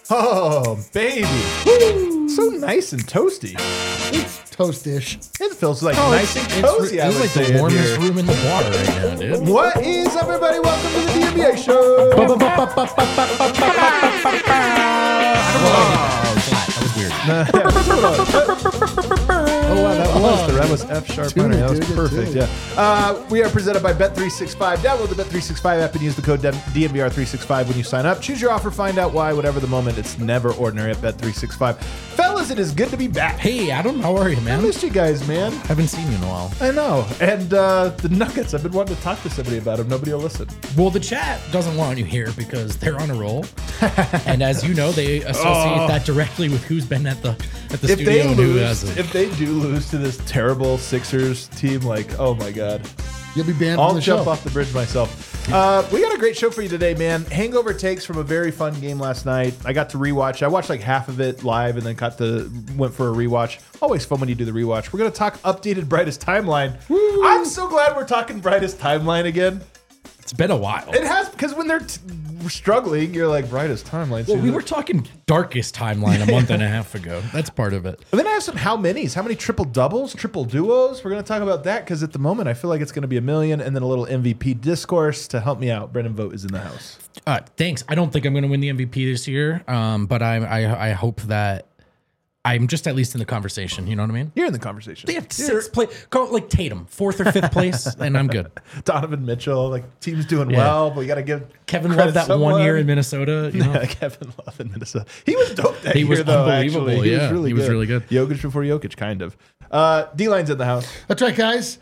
Oh, baby. Woo. So nice and toasty. It's toast-ish. It feels like nice and cozy. It's like the warmest room in the water right now, dude. What is up, everybody? Welcome to the DNBA show. That was weird. Oh, wow, that was F sharp minor. That was perfect. Yeah. We are presented by Bet365. Download the Bet365 app and use the code DNBR365 when you sign up. Choose your offer, find out why. Whatever the moment, it's never ordinary at Bet365. Fellas, it is good to be back. Hey, Adam, how are you, I man? missed you guys, man. Haven't seen you in a while. I know. And the Nuggets, I've been wanting to talk to somebody about them. Nobody will listen. Well, the chat doesn't want you here because they're on a roll. And as you know, they associate that directly with who's been at the studio and who hasn't. If they do lose to this terrible Sixers team, like, oh my God. You'll be banned I'll from the jump show. off the bridge myself. We got a great show for you today, man. Hangover takes from a very fun game last night. I got to rewatch. I watched like half of it live and then went for a rewatch. Always fun when you do the rewatch. We're going to talk updated Brightest Timeline. Woo. I'm so glad we're talking Brightest Timeline again. It's been a while. It has, because when they're struggling, you're like, Brightest Timeline. Well, we were talking Darkest Timeline a month and a half ago. That's part of it. And then I have some how many triple doubles, triple duos. We're going to talk about that because at the moment I feel like it's going to be a million, and then a little MVP discourse to help me out. Brendan Vogt is in the house. Thanks. I don't think I'm going to win the MVP this year, but I hope that I'm just at least in the conversation. You know what I mean? You're in the conversation. They have sixth place, like Tatum, 4th or 5th place, and I'm good. Donovan Mitchell, like team's doing well, but we got to give Kevin credit Love that 1 year in Minnesota. You know? Yeah, Kevin Love in Minnesota. He was dope that He year, was though. unbelievable. Actually. Yeah, he was really good. Jokic before Jokic, kind of. D-Line's in the house. That's right, guys.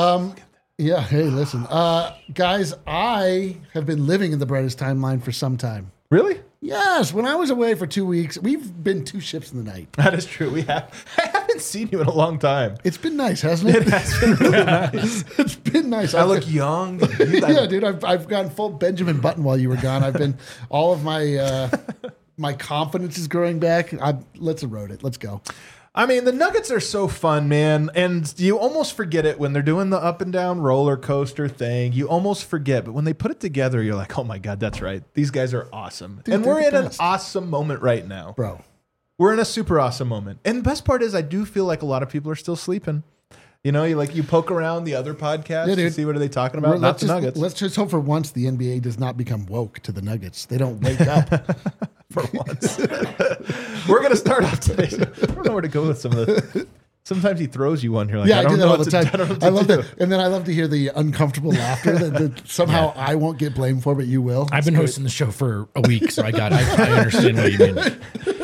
Yeah, hey, listen. Guys, I have been living in the Brightest Timeline for some time. Really? Yes, when I was away for 2 weeks, we've been 2 ships in the night. That is true. I haven't seen you in a long time. It's been nice, hasn't it? It has been really nice. It's been nice. I look young. Yeah, dude, I've gone full Benjamin Button while you were gone. I've been, all of my my confidence is growing back. Let's erode it. Let's go. I mean, the Nuggets are so fun, man. And you almost forget it when they're doing the up and down roller coaster thing. You almost forget. But when they put it together, you're like, oh my God, that's right. These guys are awesome. Dude, and we're they're in the an best. awesome moment right now. Bro. We're in a super awesome moment. And the best part is I do feel like a lot of people are still sleeping. You know, you poke around the other podcasts to see what are they talking about. Not the Nuggets. Let's just hope for once the NBA does not become woke to the Nuggets. They don't wake up. For once. We're going to start off today. I don't know where to go with some of the... Sometimes he throws you one here. Like, Yeah, I do that all the time. I love that. that. And then I love to hear the uncomfortable laughter that somehow I won't get blamed for, but you will. I've been hosting the show for a week, so I understand what you mean.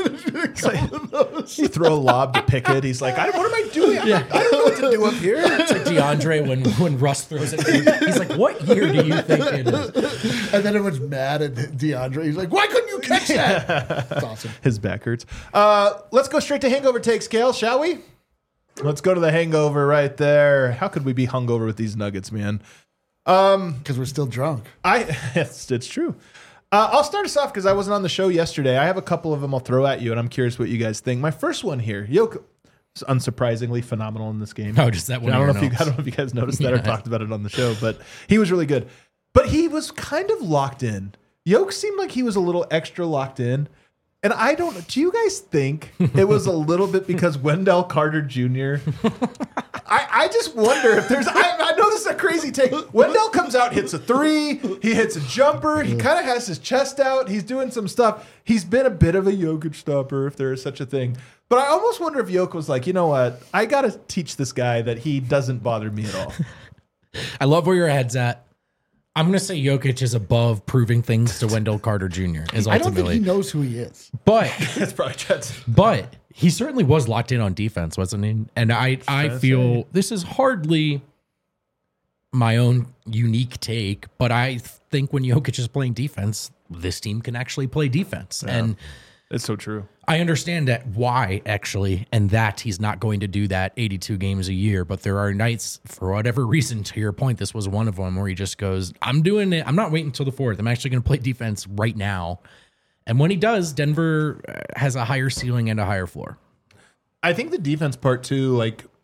You throw a lob to Pickett. He's like, what am I doing? I don't know what to do up here. It's like DeAndre when Russ throws it. He's like, what year do you think it is? And then everyone's mad at DeAndre. He's like, why couldn't you catch that? It's awesome. His back hurts. Let's go straight to hangover takes, Kale, shall we? Let's go to the hangover right there. How could we be hungover with these Nuggets, man? Because we're still drunk. It's true. I'll start us off because I wasn't on the show yesterday. I have a couple of them I'll throw at you, and I'm curious what you guys think. My first one here, Jokic is unsurprisingly phenomenal in this game. Oh, just that one. I don't know if you guys noticed that or talked about it on the show, but he was really good. But he was kind of locked in. Jokic seemed like he was a little extra locked in. And do you guys think it was a little bit because Wendell Carter Jr.? I just wonder if there's, I know this is a crazy take. Wendell comes out, hits a three, he hits a jumper, he kind of has his chest out, he's doing some stuff. He's been a bit of a Jokic stopper, if there is such a thing. But I almost wonder if Jokic was like, you know what, I got to teach this guy that he doesn't bother me at all. I love where your head's at. I'm going to say Jokic is above proving things to Wendell Carter Jr. I don't think he knows who he is. But That's probably true. But he certainly was locked in on defense, wasn't he? And I feel this is hardly my own unique take, but I think when Jokic is playing defense, this team can actually play defense. Yeah, and it's so true. I understand that why, actually, and that he's not going to do that 82 games a year. But there are nights, for whatever reason, to your point, this was one of them where he just goes, I'm doing it. I'm not waiting until the fourth. I'm actually going to play defense right now. And when he does, Denver has a higher ceiling and a higher floor. I think the defense part too, like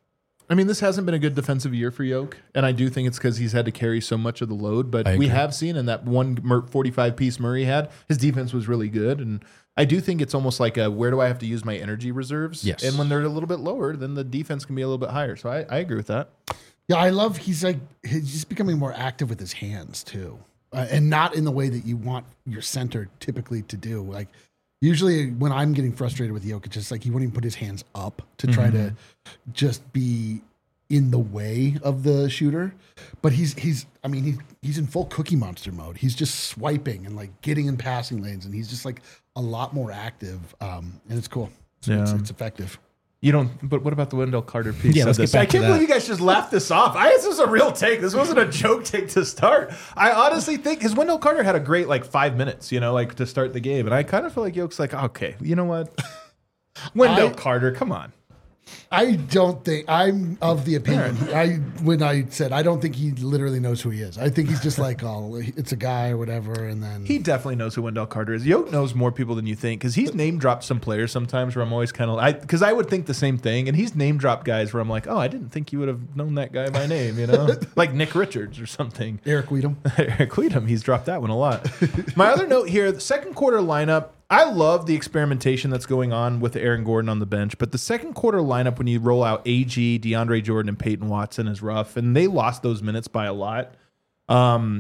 I mean, this hasn't been a good defensive year for Yoke, and I do think it's because he's had to carry so much of the load. But we have seen in that one 45-piece Murray had, his defense was really good. And I do think it's almost like where do I have to use my energy reserves? Yes. And when they're a little bit lower, then the defense can be a little bit higher. So I agree with that. Yeah, I love he's just becoming more active with his hands too, and not in the way that you want your center typically to do. Like usually when I'm getting frustrated with Jokic, it's just like he won't even put his hands up to try to just be in the way of the shooter. But he's in full Cookie Monster mode. He's just swiping and like getting in passing lanes, and he's just like a lot more active, and it's cool. It's effective. You don't, but what about the Wendell Carter piece? Yeah, let's get back I can't to that. believe you guys just laughed this off. This was a real take. This wasn't a joke take to start. I honestly think his Wendell Carter had a great 5 minutes, to start the game. And I kind of feel like Yoke's like, okay, you know what? Wendell Carter, come on. I don't think I'm of the opinion. When I said I don't think he literally knows who he is. I think he's just like, oh, it's a guy or whatever. And then He definitely knows who Wendell Carter is. Yoke knows more people than you think because he's name dropped some players sometimes where I'm always kind of because I would think the same thing. And he's name dropped guys where I'm like, oh, I didn't think you would have known that guy by name, like Nick Richards or something. Eric Weedham. Eric Weedham, he's dropped that one a lot. My other note here, the second quarter lineup, I love the experimentation that's going on with Aaron Gordon on the bench, but the second quarter lineup when you roll out AG, DeAndre Jordan, and Peyton Watson is rough, and they lost those minutes by a lot. I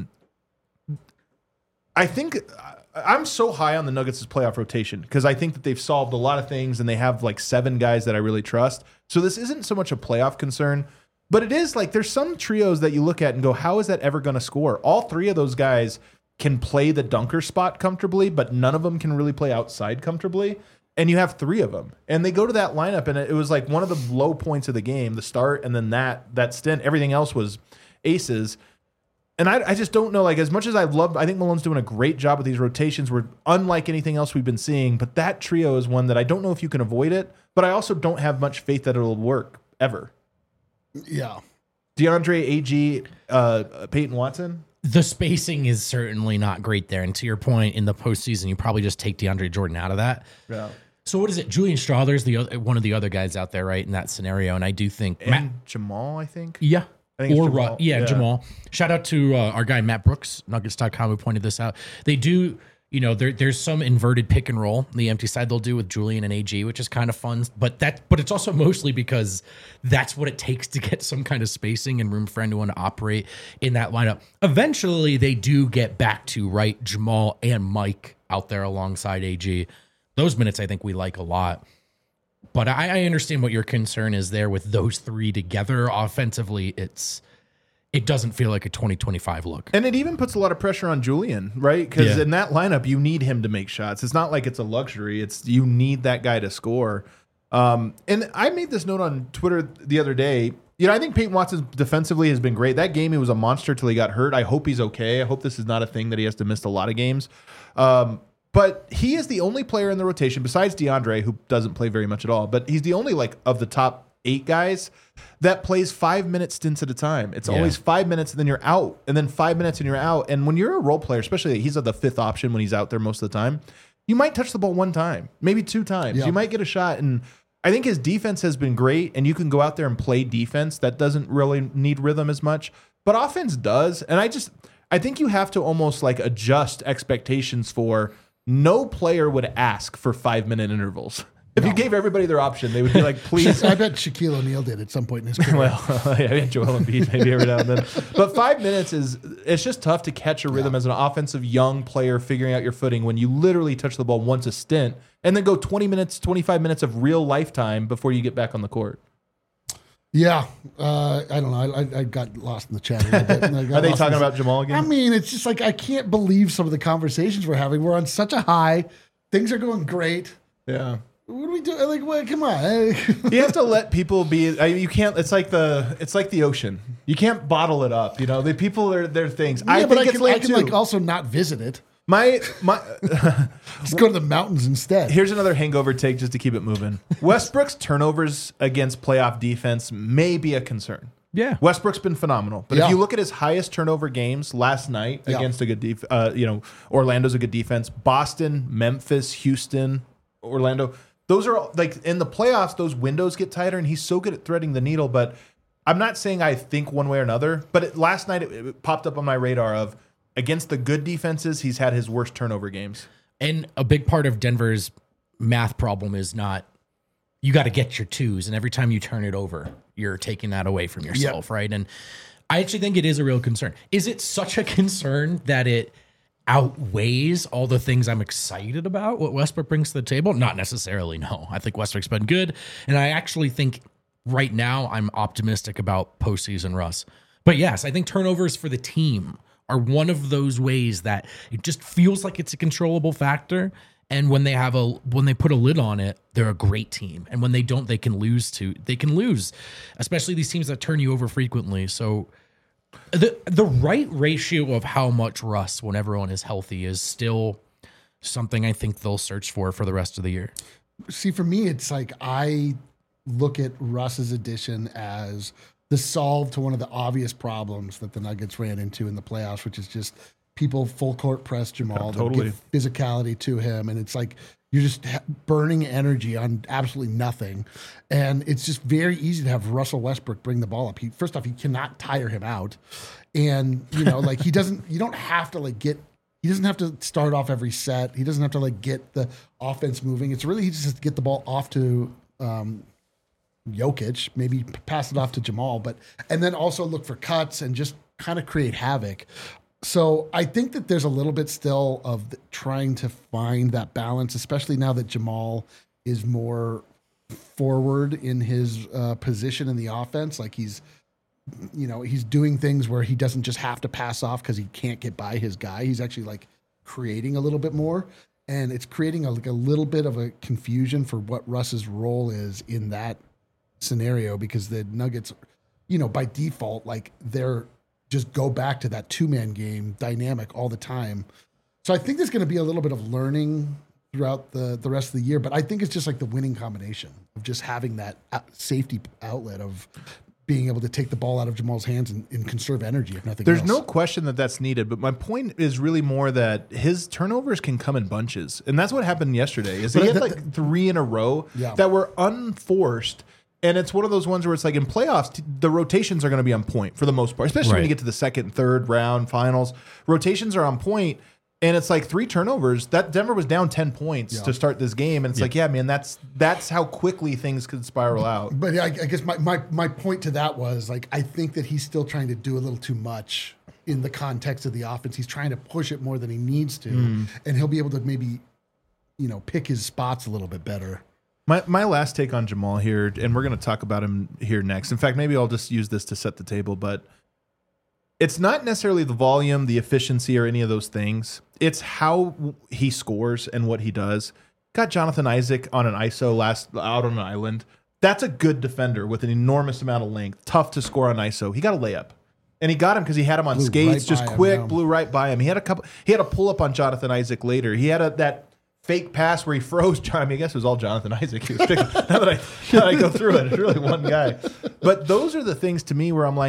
think I'm so high on the Nuggets' playoff rotation because I think that they've solved a lot of things, and they have 7 guys that I really trust. So this isn't so much a playoff concern, but it is there's some trios that you look at and go, how is that ever going to score? All 3 of those guys can play the dunker spot comfortably, but none of them can really play outside comfortably. And you have 3 of them. And they go to that lineup, and it was one of the low points of the game, the start, and then that stint. Everything else was aces. And I just don't know, as much as I think Malone's doing a great job with these rotations. We're unlike anything else we've been seeing, but that trio is one that I don't know if you can avoid it, but I also don't have much faith that it'll work, ever. Yeah. DeAndre, AG, Peyton Watson? The spacing is certainly not great there. And to your point, in the postseason, you probably just take DeAndre Jordan out of that. Yeah. So what is it? Julian Strawther's one of the other guys out there, right, in that scenario. And I do think Jamal, I think. Yeah. I think it's Jamal. Jamal. Shout out to our guy, Matt Brooks, Nuggets.com, who pointed this out. They do, there's some inverted pick and roll, the empty side they'll do with Julian and AG, which is kind of fun. But it's also mostly because that's what it takes to get some kind of spacing and room for anyone to operate in that lineup. Eventually, they do get back to, right, Jamal and Mike out there alongside AG. Those minutes I think we like a lot. But I understand what your concern is there with those 3 together. Offensively, it doesn't feel like a 2025 look. And it even puts a lot of pressure on Julian, right? Because in that lineup, you need him to make shots. It's not like it's a luxury. You need that guy to score. And I made this note on Twitter the other day. I think Peyton Watson defensively has been great. That game, he was a monster till he got hurt. I hope he's okay. I hope this is not a thing that he has to miss a lot of games. But he is the only player in the rotation, besides DeAndre, who doesn't play very much at all, but he's the only, of the top 8 guys that plays 5-minute stints at a time. It's always 5 minutes and then you're out, and then 5 minutes and you're out. And when you're a role player, especially he's the 5th option when he's out there most of the time, you might touch the ball 1 time, maybe 2 times. Yeah. You might get a shot. And I think his defense has been great, and you can go out there and play defense. That doesn't really need rhythm as much, but offense does. And I think you have to almost adjust expectations for no player would ask for 5-minute intervals. If you gave everybody their option, they would be like, please. I bet Shaquille O'Neal did at some point in his career. Well, yeah, Joel Embiid maybe every now and then. But 5 minutes it's just tough to catch a rhythm as an offensive young player figuring out your footing when you literally touch the ball once a stint and then go 20 minutes, 25 minutes of real lifetime before you get back on the court. Yeah. I don't know. I got lost in the chat a little bit. Are they talking about Jamal again? I mean, it's just I can't believe some of the conversations we're having. We're on such a high. Things are going great. Yeah. What do we do? What, come on. You have to let people be. You can't. It's like the ocean. You can't bottle it up. The people are their things. Yeah, but I can also not visit it. My just go to the mountains instead. Here's another hangover take just to keep it moving. Westbrook's turnovers against playoff defense may be a concern. Yeah, Westbrook's been phenomenal, but if you look at his highest turnover games last night against a good Orlando's a good defense. Boston, Memphis, Houston, Orlando. Those are in the playoffs. Those windows get tighter, and he's so good at threading the needle. But I'm not saying I think one way or another, but last night it popped up on my radar of against the good defenses, he's had his worst turnover games. And a big part of Denver's math problem is not, you got to get your twos, and every time you turn it over, you're taking that away from yourself, right? And I actually think it is a real concern. Is it such a concern that it outweighs all the things I'm excited about, what Westbrook brings to the table? Not necessarily, no. I think Westbrook's been good, and I actually think right now I'm optimistic about postseason Russ. But yes, I think turnovers for the team are one of those ways that it just feels like it's a controllable factor. And when they put a lid on it, they're a great team. And when they don't, they can lose, especially these teams that turn you over frequently. So the right ratio of how much Russ when everyone is healthy is still something I think they'll search for the rest of the year. See, for me, it's like I look at Russ's addition as the solve to one of the obvious problems that the Nuggets ran into in the playoffs, which is just people full court press Jamal, totally. give physicality to him. And it's like you're just burning energy on absolutely nothing. And it's just very easy to have Russell Westbrook bring the ball up. First off, he cannot tire him out. And, you don't have to he doesn't have to start off every set. He doesn't have to get the offense moving. It's really, he just has to get the ball off to, Jokic, maybe pass it off to Jamal, and then also look for cuts and just kind of create havoc. So I think that there's a little bit still of trying to find that balance, especially now that Jamal is more forward in his position in the offense. Like he's doing things where he doesn't just have to pass off because he can't get by his guy. He's actually creating a little bit more, and it's creating a little bit of a confusion for what Russ's role is in that scenario, because the Nuggets, by default, they're just go back to that 2-man game dynamic all the time. So I think there's going to be a little bit of learning throughout the rest of the year, but I think it's just the winning combination of just having that safety outlet of being able to take the ball out of Jamal's hands and conserve energy, if nothing else. There's no question that that's needed, but my point is really more that his turnovers can come in bunches. And that's what happened yesterday, is he had 3 in a row that were unforced. And it's one of those ones where it's in playoffs, the rotations are going to be on point for the most part, especially when you get to the second, third round finals. Rotations are on point, and it's 3 turnovers. That Denver was down 10 points to start this game, and it's man, that's how quickly things could spiral out. But I guess my point to that was I think that he's still trying to do a little too much in the context of the offense. He's trying to push it more than he needs to, and he'll be able to maybe pick his spots a little bit better. My last take on Jamal here, and we're going to talk about him here next. In fact, maybe I'll just use this to set the table, but it's not necessarily the volume, the efficiency, or any of those things. It's how he scores and what he does. Got Jonathan Isaac on an ISO out on an island. That's a good defender with an enormous amount of length. Tough to score on ISO. He got a layup. And he got him because he had him on skates, just quick, blew right by him. He had a pull up on Jonathan Isaac later. He had that fake pass where he froze John. I mean, I guess it was all Jonathan Isaac. He was picking. now that I go through it, it's really one guy. But those are the things to me where I'm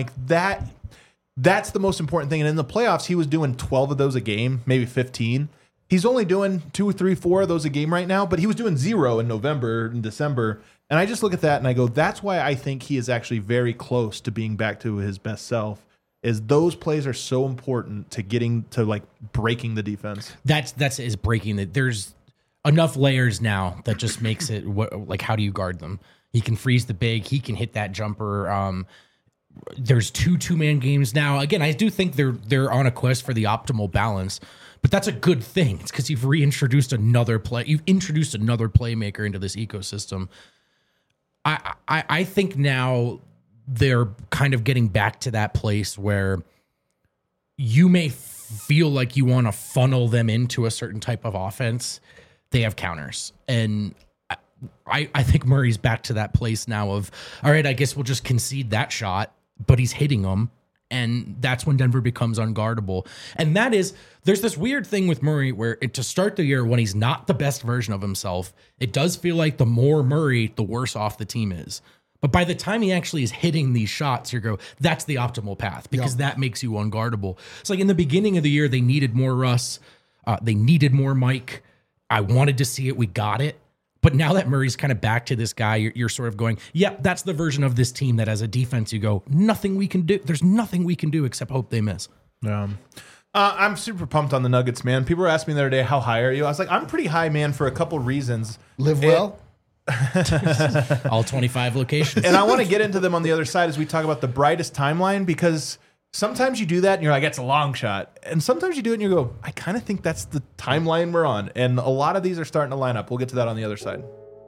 that's the most important thing. And in the playoffs, he was doing 12 of those a game, maybe 15. He's only doing 2, 3, 4 of those a game right now, but he was doing 0 in November and December. And I just look at that and I go, that's why I think he is actually very close to being back to his best self. Is those plays are so important to getting to breaking the defense. That's breaking the. There's enough layers now that just makes it how do you guard them? He can freeze the big. He can hit that jumper. There's 2-man games now. Again, I do think they're on a quest for the optimal balance, but that's a good thing. It's because you've introduced another playmaker into this ecosystem. I think now they're kind of getting back to that place where you may feel like you want to funnel them into a certain type of offense. They have counters. And I think Murray's back to that place now of, all right, I guess we'll just concede that shot, but he's hitting them. And that's when Denver becomes unguardable. And there's this weird thing with Murray where to start the year when he's not the best version of himself, it does feel like the more Murray, the worse off the team is. But by the time he actually is hitting these shots, you go, that's the optimal path because that makes you unguardable. It's in the beginning of the year, they needed more Russ. They needed more Mike. I wanted to see it. We got it. But now that Murray's kind of back to this guy, you're sort of going, yep, that's the version of this team that as a defense you go, nothing we can do. There's nothing we can do except hope they miss. I'm super pumped on the Nuggets, man. People were asking me the other day, how high are you? I was like, I'm pretty high, man, for a couple reasons. Live well. All 25 locations. And I want to get into them on the other side as we talk about the brightest timeline, because sometimes you do that and you're like, it's a long shot. And sometimes you do it and you go, I kind of think that's the timeline we're on. And a lot of these are starting to line up. We'll get to that on the other side.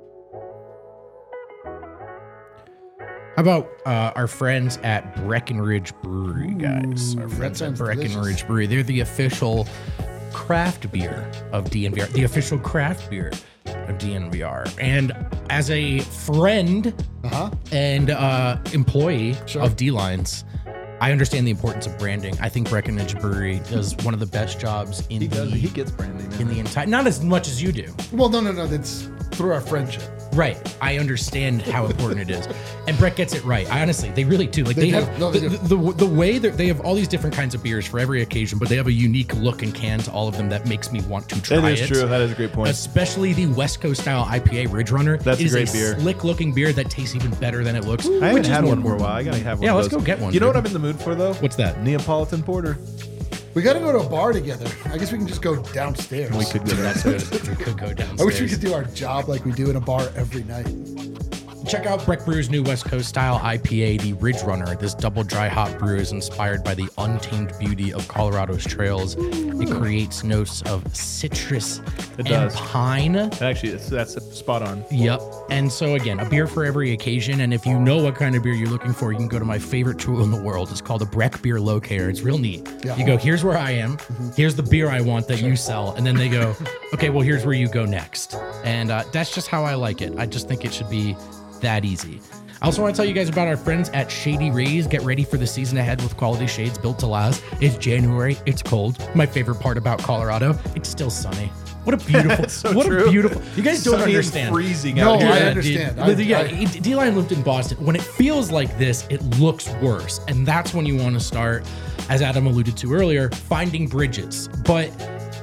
How about our friends at Breckenridge Brewery, guys? Our friends at Breckenridge delicious. Brewery. They're the official craft beer of DNVR. The official craft beer of DNVR. And as a friend and employee of D-Lines, I understand the importance of branding. I think Breckenridge Brewery does one of the best jobs in He gets branding, man. in the entire. Not as much as you do. Well, no. That's through our friendship. Right. I understand how important it is. And Brett gets it right. I honestly, they really do. Like they do. have No, they do. the way that they have all these different kinds of beers for every occasion, but they have a unique look and can to all of them that makes me want to try it. That is true. That is a great point. Especially the West Coast style IPA Ridge Runner. That's It a is great beer. Slick looking beer that tastes even better than it looks. I haven't which is had one more for a while. I gotta have one. Yeah, of let's those. go get one, You know dude. what I'm in the mood for though? What's that? Neapolitan porter. We got to go to a bar together. I guess we can just go downstairs. We could go That's good. We could go downstairs. I wish we could do our job like we do in a bar every night. Check out Breck Brew's new West Coast style IPA, the Ridge Runner. This double dry hop brew is inspired by the untamed beauty of Colorado's trails. It creates notes of citrus and does. pine. Actually, that's spot on. Yep. And so again, a beer for every occasion. And if you know what kind of beer you're looking for, you can go to my favorite tool in the world. It's called a Breck Beer Locator. It's real neat. Yeah. You go, here's where I am. Here's the beer I want that you sell. And then they go, okay, well, here's where you go next. And that's just how I like it. I just think it should be that easy. I also want to tell you guys about our friends at Shady Rays. Get ready for the season ahead with quality shades built to last. It's January. It's cold. My favorite part about Colorado, it's still sunny. What a beautiful, so what true. a beautiful. You guys don't Sunny and understand. freezing No, out here. I Yeah, understand. dude. D-Line lived in Boston. When it feels like this, it looks worse. And that's when you want to start, as Adam alluded to earlier, finding bridges. But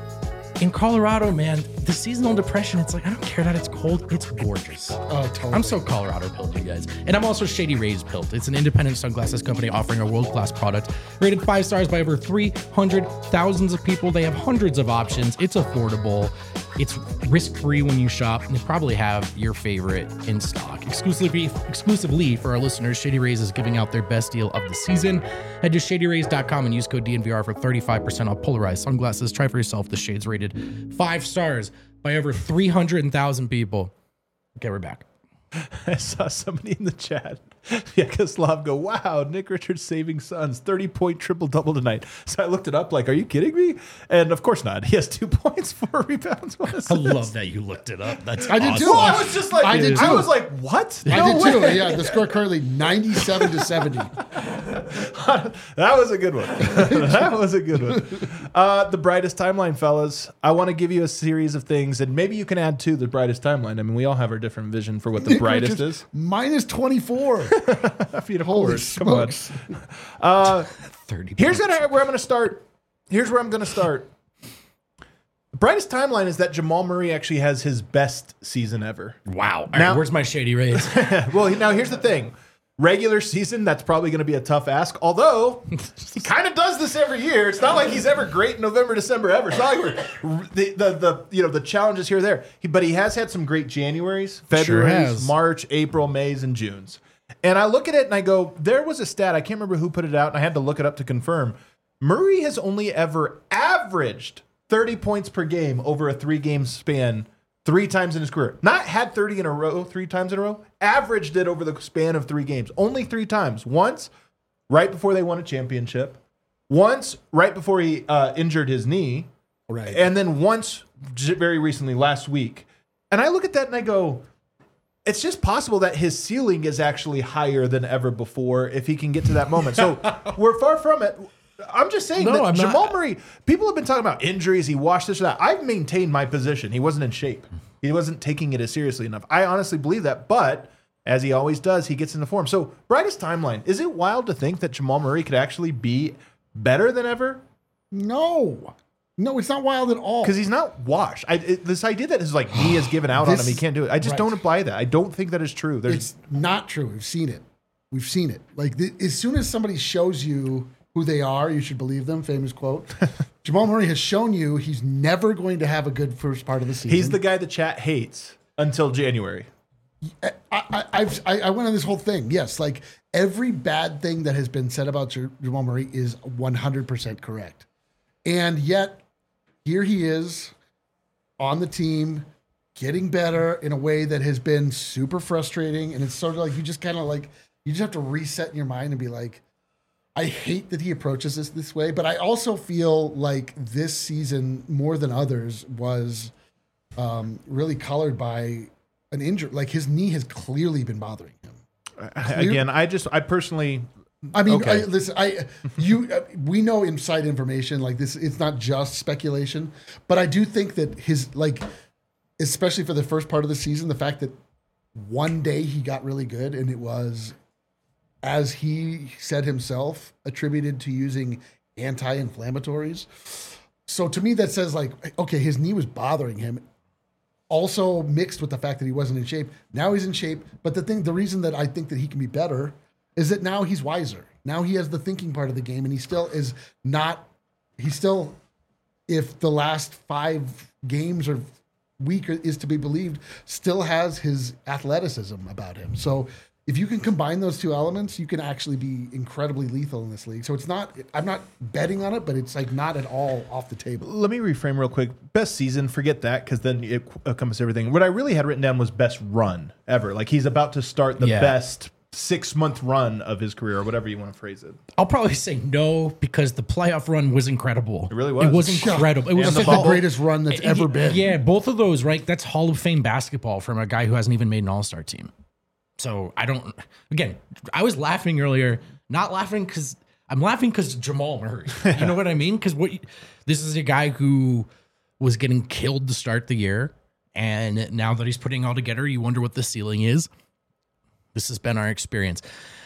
in Colorado, man, the seasonal depression, it's like, I don't care that it's cold. It's gorgeous. Oh, totally. I'm so Colorado pilled, you guys. And I'm also Shady Rays pilled. It's an independent sunglasses company offering a world-class product. Rated 5 stars by over 300,000 of people. They have hundreds of options. It's affordable. It's risk-free when you shop. And they probably have your favorite in stock. Exclusively for our listeners, Shady Rays is giving out their best deal of the season. Head to shadyrays.com and use code DNVR for 35% off polarized sunglasses. Try for yourself. The shades rated 5 stars by over 300,000 people. Okay, we're back. I saw somebody in the chat, Yakoslav, go, wow, Nick Richards saving Suns, 30-point triple-double tonight. So I looked it up like, are you kidding me? And of course not. He has 2 points, 4 rebounds, 1 assist. I love that you looked it up. That's I did awesome. too. Well, I was just like, I did too. I was like, what? I No did too. way. Yeah, the score currently 97-70. That was a good one. That was a good one. The brightest timeline, fellas. I want to give you a series of things, and maybe you can add to the brightest timeline. I mean, we all have our different vision for what the brightest is. Minus 24. I mean, of Holy course. Come on. smokes. 30 Here's points. where I'm going to start. Here's where I'm going to start. The brightest timeline is that Jamal Murray actually has his best season ever. Wow. All Now- right, where's my Shady Rays? Well, now here's the thing. Regular season, that's probably going to be a tough ask. Although he kind of does this every year. It's not like he's ever great in November, December ever. It's not like we're the challenges here or there. But he has had some great Januaries, Februarys, has. March, April, Mays, and Junes. And I look at it and I go, there was a stat. I can't remember who put it out, and I had to look it up to confirm. Murray has only ever averaged 30 points per game over a 3-game span 3 times in his career. Not had 30 in a row, 3 times in a row. Averaged it over the span of 3 games. Only 3 times. Once, right before they won a championship. Once, right before he injured his knee. Right. And then once, very recently, last week. And I look at that and I go, it's just possible that his ceiling is actually higher than ever before if he can get to that moment. So we're far from it. I'm just saying No, that I'm not. Jamal Murray, people have been talking about injuries. He washed this or that. I've maintained my position. He wasn't in shape. He wasn't taking it as seriously enough. I honestly believe that. But as he always does, he gets into form. So brightest timeline. Is it wild to think that Jamal Murray could actually be better than ever? No. No, it's not wild at all. Because he's not washed. This idea that his like knee has given out on him, he can't do it. I just don't buy that. I don't think that is true. It's not true. We've seen it. Like as soon as somebody shows you who they are, you should believe them. Famous quote. Jamal Murray has shown you he's never going to have a good first part of the season. He's the guy the chat hates until January. I went on this whole thing. Yes, like every bad thing that has been said about Jamal Murray is 100% correct. And yet, here he is on the team, getting better in a way that has been super frustrating. And it's sort of like you just have to reset in your mind and be like, I hate that he approaches this way. But I also feel like this season, more than others, was really colored by an injury. Like his knee has clearly been bothering him. Again, I personally... I mean, okay. We know inside information like this. It's not just speculation, but I do think that his especially for the first part of the season, the fact that one day he got really good, and it was, as he said himself, attributed to using anti-inflammatories. So to me, that says like, okay, his knee was bothering him. Also mixed with the fact that he wasn't in shape. Now he's in shape, but the reason that I think that he can be better is that now he's wiser. Now he has the thinking part of the game, and he still is not. He still, if the last 5 games or week is to be believed, still has his athleticism about him. So if you can combine those two elements, you can actually be incredibly lethal in this league. So it's not. I'm not betting on it, but it's like not at all off the table. Let me reframe real quick. Best season, forget that, because then it encompasses everything. What I really had written down was best run ever. Like he's about to start the best 6-month run of his career, or whatever you want to phrase it. I'll probably say no, because the playoff run was incredible. It really was. It was incredible. It was the greatest run that's ever been. Yeah, both of those, right? That's Hall of Fame basketball from a guy who hasn't even made an All-Star team. So I was laughing earlier, not laughing because I'm laughing because Jamal Murray. You know what I mean? Because this is a guy who was getting killed to start the year, and now that he's putting it all together, you wonder what the ceiling is. This has been our experience.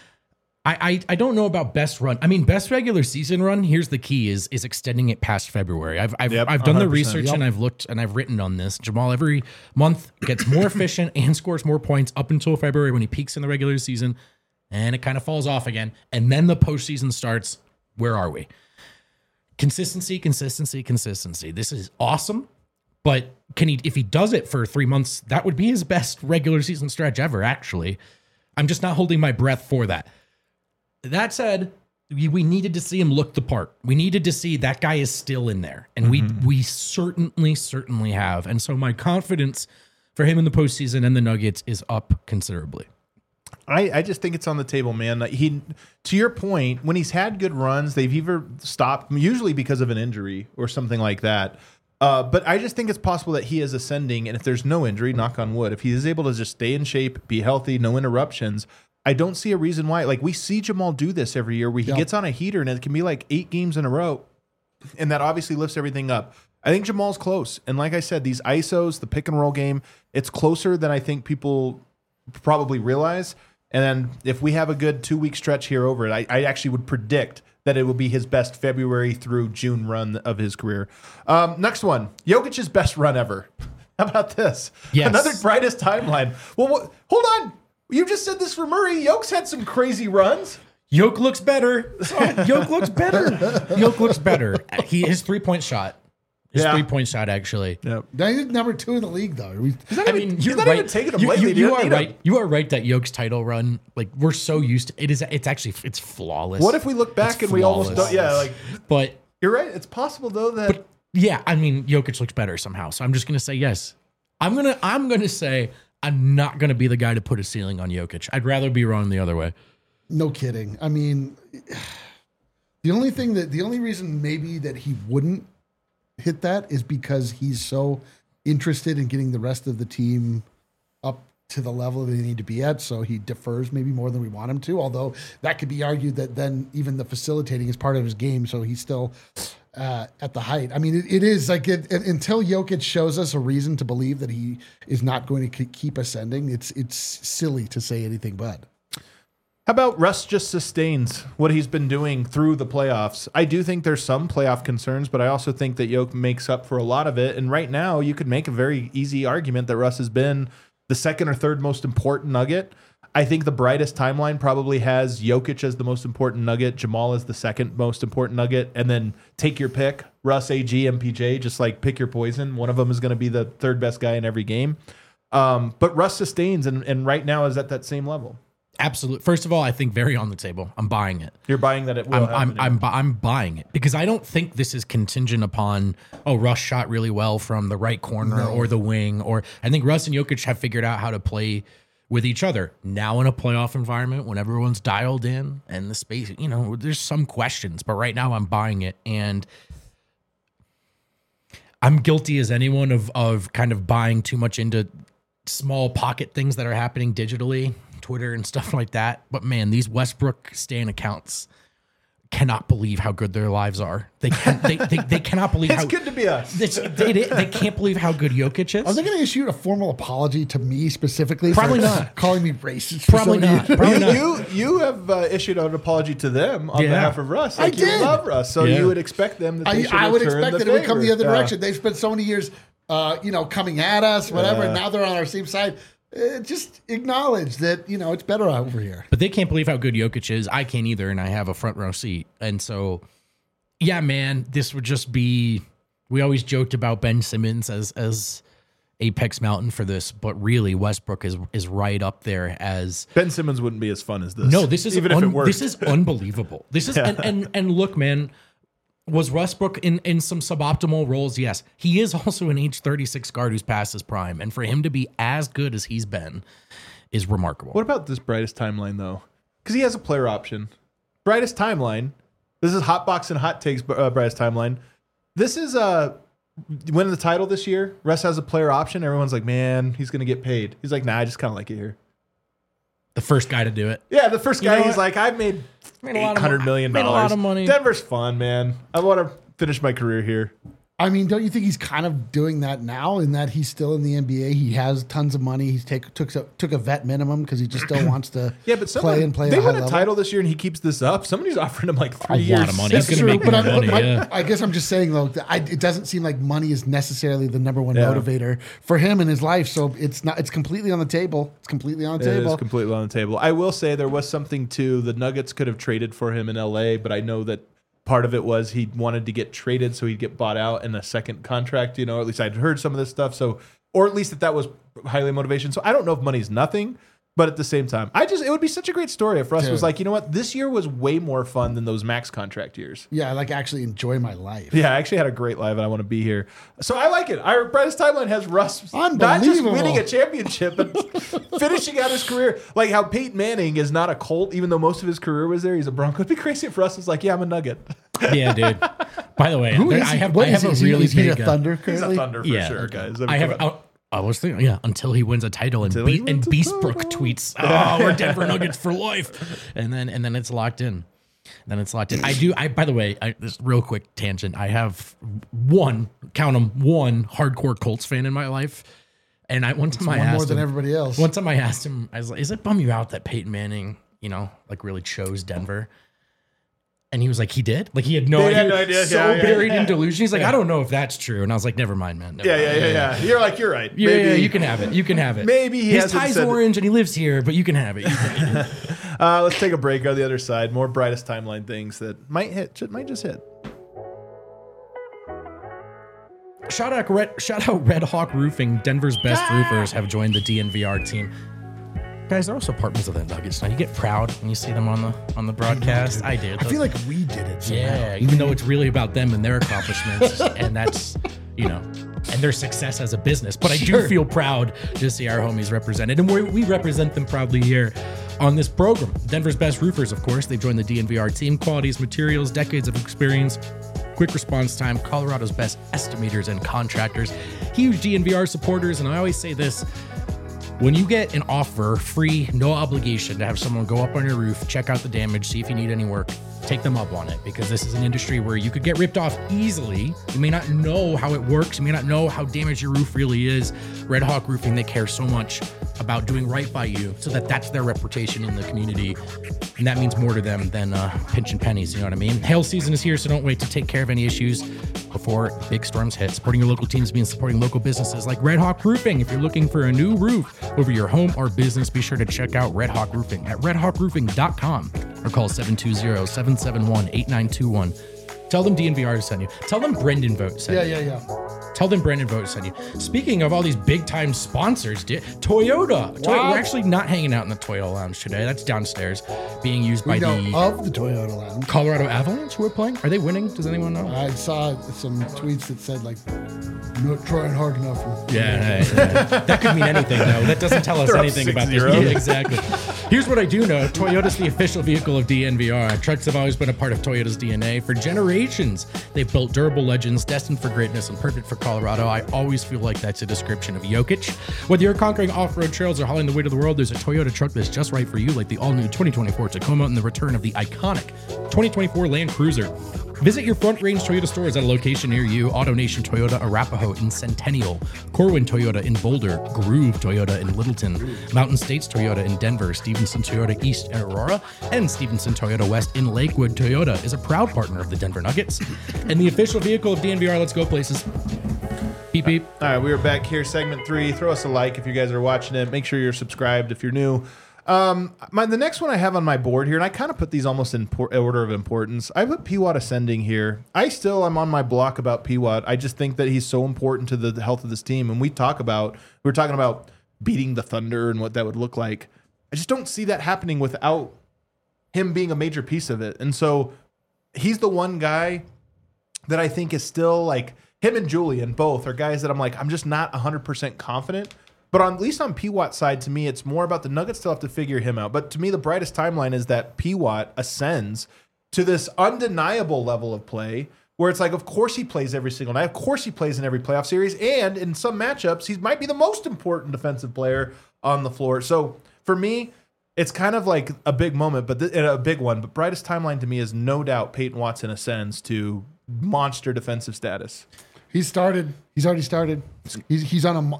I don't know about best run. I mean, best regular season run. Here's the key: is extending it past February. I've done the research and I've looked and I've written on this. Jamal every month gets more efficient and scores more points up until February when he peaks in the regular season, and it kind of falls off again. And then the postseason starts. Where are we? Consistency. This is awesome, but if he does it for 3 months, that would be his best regular season stretch ever. Actually, I'm just not holding my breath for that. That said, we needed to see him look the part. We needed to see that guy is still in there. And we certainly have. And so my confidence for him in the postseason and the Nuggets is up considerably. I just think it's on the table, man. To your point, when he's had good runs, they've either stopped, usually because of an injury or something like that. But I just think it's possible that he is ascending. And if there's no injury, knock on wood, if he is able to just stay in shape, be healthy, no interruptions, I don't see a reason why. Like, we see Jamal do this every year where he gets on a heater and it can be like 8 games in a row. And that obviously lifts everything up. I think Jamal's close. And like I said, these ISOs, the pick and roll game, it's closer than I think people probably realize. And then if we have a good 2-week stretch here over it, I actually would predict that it will be his best February through June run of his career. Next one, Jokic's best run ever. How about this? Yes. Another brightest timeline. Well, hold on. You just said this for Murray. Yoke's had some crazy runs. Yoke looks better. Yoke looks better. His 3-point shot. His 3-point shot, actually. Yep. Now he's number 2 in the league, though. He's not even taking him lately. You are right. You are right that Yoke's title run, like, we're so used to it. It's flawless. What if we look back and we almost don't? Yeah, like. But you're right. It's possible though that. But yeah, I mean, Jokic looks better somehow. So I'm just gonna say yes. I'm gonna say I'm not gonna be the guy to put a ceiling on Jokic. I'd rather be wrong the other way. No kidding. I mean, the only reason maybe that he wouldn't hit that is because he's so interested in getting the rest of the team up to the level they need to be at, so he defers maybe more than we want him to, although that could be argued that then even the facilitating is part of his game, so he's still at the height. I mean, it is like until Jokic shows us a reason to believe that he is not going to keep ascending, it's silly to say anything but. How How about Russ just sustains what he's been doing through the playoffs? I do think there's some playoff concerns, but I also think that Yoke makes up for a lot of it. And right now, you could make a very easy argument that Russ has been the second or third most important Nugget. I think the brightest timeline probably has Jokic as the most important Nugget, Jamal as the second most important Nugget, and then take your pick, Russ, AG, MPJ, just like pick your poison. One of them is going to be the third best guy in every game. But Russ sustains and right now is at that same level. Absolutely. First of all, I think very on the table. I'm buying it. You're buying that it will happen. I'm buying it because I don't think this is contingent upon, Russ shot really well from the right corner or the wing. Or I think Russ and Jokic have figured out how to play with each other. Now in a playoff environment when everyone's dialed in and the space, there's some questions. But right now I'm buying it. And I'm guilty as anyone of kind of buying too much into small pocket things that are happening digitally, Twitter and stuff like that. But man, these Westbrook stan accounts cannot believe how good their lives are. They cannot believe it's good to be us. They can't believe how good Jokic is. Are they going to issue a formal apology to me specifically? Probably for not. Calling me racist. Probably not. Probably not. You have issued an apology to them on behalf of Russ. I did. You love Russ, so you would expect them that they should I would return expect the that it would come favor. the other direction. They've spent so many years, coming at us, whatever, and now they're on our same side. Just acknowledge that, it's better over here. But they can't believe how good Jokic is. I can't either, and I have a front row seat. And so, yeah, man, this would just be. We always joked about Ben Simmons as Apex Mountain for this, but really Westbrook is right up there as. Ben Simmons wouldn't be as fun as this. No, this is even if it worked. This is unbelievable. This is and look, man. Was Westbrook in some suboptimal roles? Yes. He is also an age 36 guard who's past his prime. And for him to be as good as he's been is remarkable. What about this brightest timeline, though? Because he has a player option. Brightest timeline. This is Hotbox and Hot Takes brightest timeline. This is winning the title this year. Russ has a player option. Everyone's like, man, he's going to get paid. He's like, nah, I just kind of like it here. The first guy to do it. Yeah, the first guy, he's like, I've made $800 million. Made a lot of money. Denver's fun, man. I want to finish my career here. I mean, don't you think he's kind of doing that now in that he's still in the NBA? He has tons of money. He's took a vet minimum because he just still wants to play at a high They win a level. title this year and he keeps this up. Somebody's offering him like 3 years. A lot of money. That's He's going to true, make more money. Yeah. I guess I'm just saying, though, it doesn't seem like money is necessarily the number one motivator for him in his life. So it's not. It's completely on the table. It's completely on the It table. is completely on the table. I will say there was something too. The Nuggets could have traded for him in LA, but I know that part of it was he wanted to get traded so he'd get bought out in a second contract, at least I'd heard some of this stuff. So, or at least that was highly motivation. So I don't know if money's nothing, but at the same time, it would be such a great story if Russ was like, you know what, this year was way more fun than those max contract years. Yeah, I actually enjoy my life. Yeah, I actually had a great life and I want to be here. So I like it. Our brightest timeline has Russ not just Unbelievable. winning a championship, but finishing out his career. Like how Peyton Manning is not a Colt, even though most of his career was there. He's a Bronco. It'd be crazy if Russ was like, yeah, I'm a Nugget. Yeah, dude. By the way, I have a really is he a big Thunder He's currently? a Thunder for sure, guys. I was thinking, until he wins a title and he wins a Beastbrook title. tweets, we're Denver Nuggets for life. And then it's locked in. By the way, this real quick tangent. I have one hardcore Colts fan in my life. And one time I asked more than him, everybody else. One time I asked him, I was like, "Is it bum you out that Peyton Manning, really chose Denver?" And he was like, "He did? Like he had no idea." Had no idea. So buried in delusion. He's like, "I don't know if that's true." And I was like, "Never mind, man." Yeah. You're like, you're right. Yeah, you can have it. You can have it. Maybe he his hasn't tie's said it. orange and he lives here, but you can have it. Let's take a break on the other side. More brightest timeline things that might just hit. Shout out Red Hawk Roofing. Denver's best roofers have joined the DNVR team. Guys, they're also partners of the Nuggets. Now you get proud when you see them on the broadcast. I did. I feel like we did it. Somehow. Yeah, even though it's really about them and their accomplishments, and that's and their success as a business. But I do feel proud to see our homies represented, and we represent them proudly here on this program. Denver's best roofers, of course, they've joined the DNVR team. Qualities, materials, decades of experience, quick response time, Colorado's best estimators and contractors, huge DNVR supporters, and I always say this. When you get an offer, free, no obligation to have someone go up on your roof, check out the damage, see if you need any work, take them up on it, because this is an industry where you could get ripped off easily. You may not know how it works. You may not know how damaged your roof really is. Red Hawk Roofing, they care so much about doing right by you, so that that's their reputation in the community. And that means more to them than pinching pennies, you know what I mean? Hail season is here, so don't wait to take care of any issues before big storms hit. Supporting your local teams means supporting local businesses like Red Hawk Roofing. If you're looking for a new roof over your home or business, be sure to check out Red Hawk Roofing at redhawkroofing.com or call 720-771-8921. Tell them DNVR sent you. Tell them Brendan Vogt sent you. Yeah. Tell them Brendan Vogt sent you. Speaking of all these big time sponsors, Toyota. Wow. We're actually not hanging out in the Toyota Lounge today. That's downstairs, being used by of the Toyota Lounge. Colorado Avalanche, who are playing. Are they winning? Does anyone know? I saw some tweets that said like, not trying hard enough. Yeah. That could mean anything, though. That doesn't tell us They're up anything about this. 6-0. Yeah, exactly. Here's what I do know. Toyota's the official vehicle of DNVR. Trucks have always been a part of Toyota's DNA for generations. They've built durable legends destined for greatness and perfect for Colorado. I always feel like that's a description of Jokic. Whether you're conquering off-road trails or hauling the weight of the world, there's a Toyota truck that's just right for you, like the all-new 2024 Tacoma and the return of the iconic 2024 Land Cruiser. Visit your Front Range Toyota stores at a location near you. AutoNation Toyota Arapahoe in Centennial, Corwin Toyota in Boulder, Groove Toyota in Littleton, Mountain States Toyota in Denver, Stevenson Toyota East in Aurora, and Stevenson Toyota West in Lakewood. Toyota is a proud partner of the Denver Nuggets and the official vehicle of DNVR. Let's go places. Beep, beep. All right, we are back here, segment 3. Throw us a like if you guys are watching it. Make sure you're subscribed if you're new. The next one I have on my board here, and I kind of put these almost in order of importance. I put P-Watt ascending here. I'm on my block about P-Watt. I just think that he's so important to the health of this team. And we were talking about beating the Thunder and what that would look like. I just don't see that happening without him being a major piece of it. And so he's the one guy that I think is still like, him and Julian both are guys that I'm like, I'm just not 100% confident. But at least on P-Watt's side, to me, it's more about the Nuggets still have to figure him out. But to me, the brightest timeline is that P-Watt ascends to this undeniable level of play where it's like, of course he plays every single night. Of course he plays in every playoff series. And in some matchups, he might be the most important defensive player on the floor. So for me, it's kind of like a big moment, but a big one. But brightest timeline to me is no doubt Peyton Watson ascends to monster defensive status. He's started. He's already started. He's on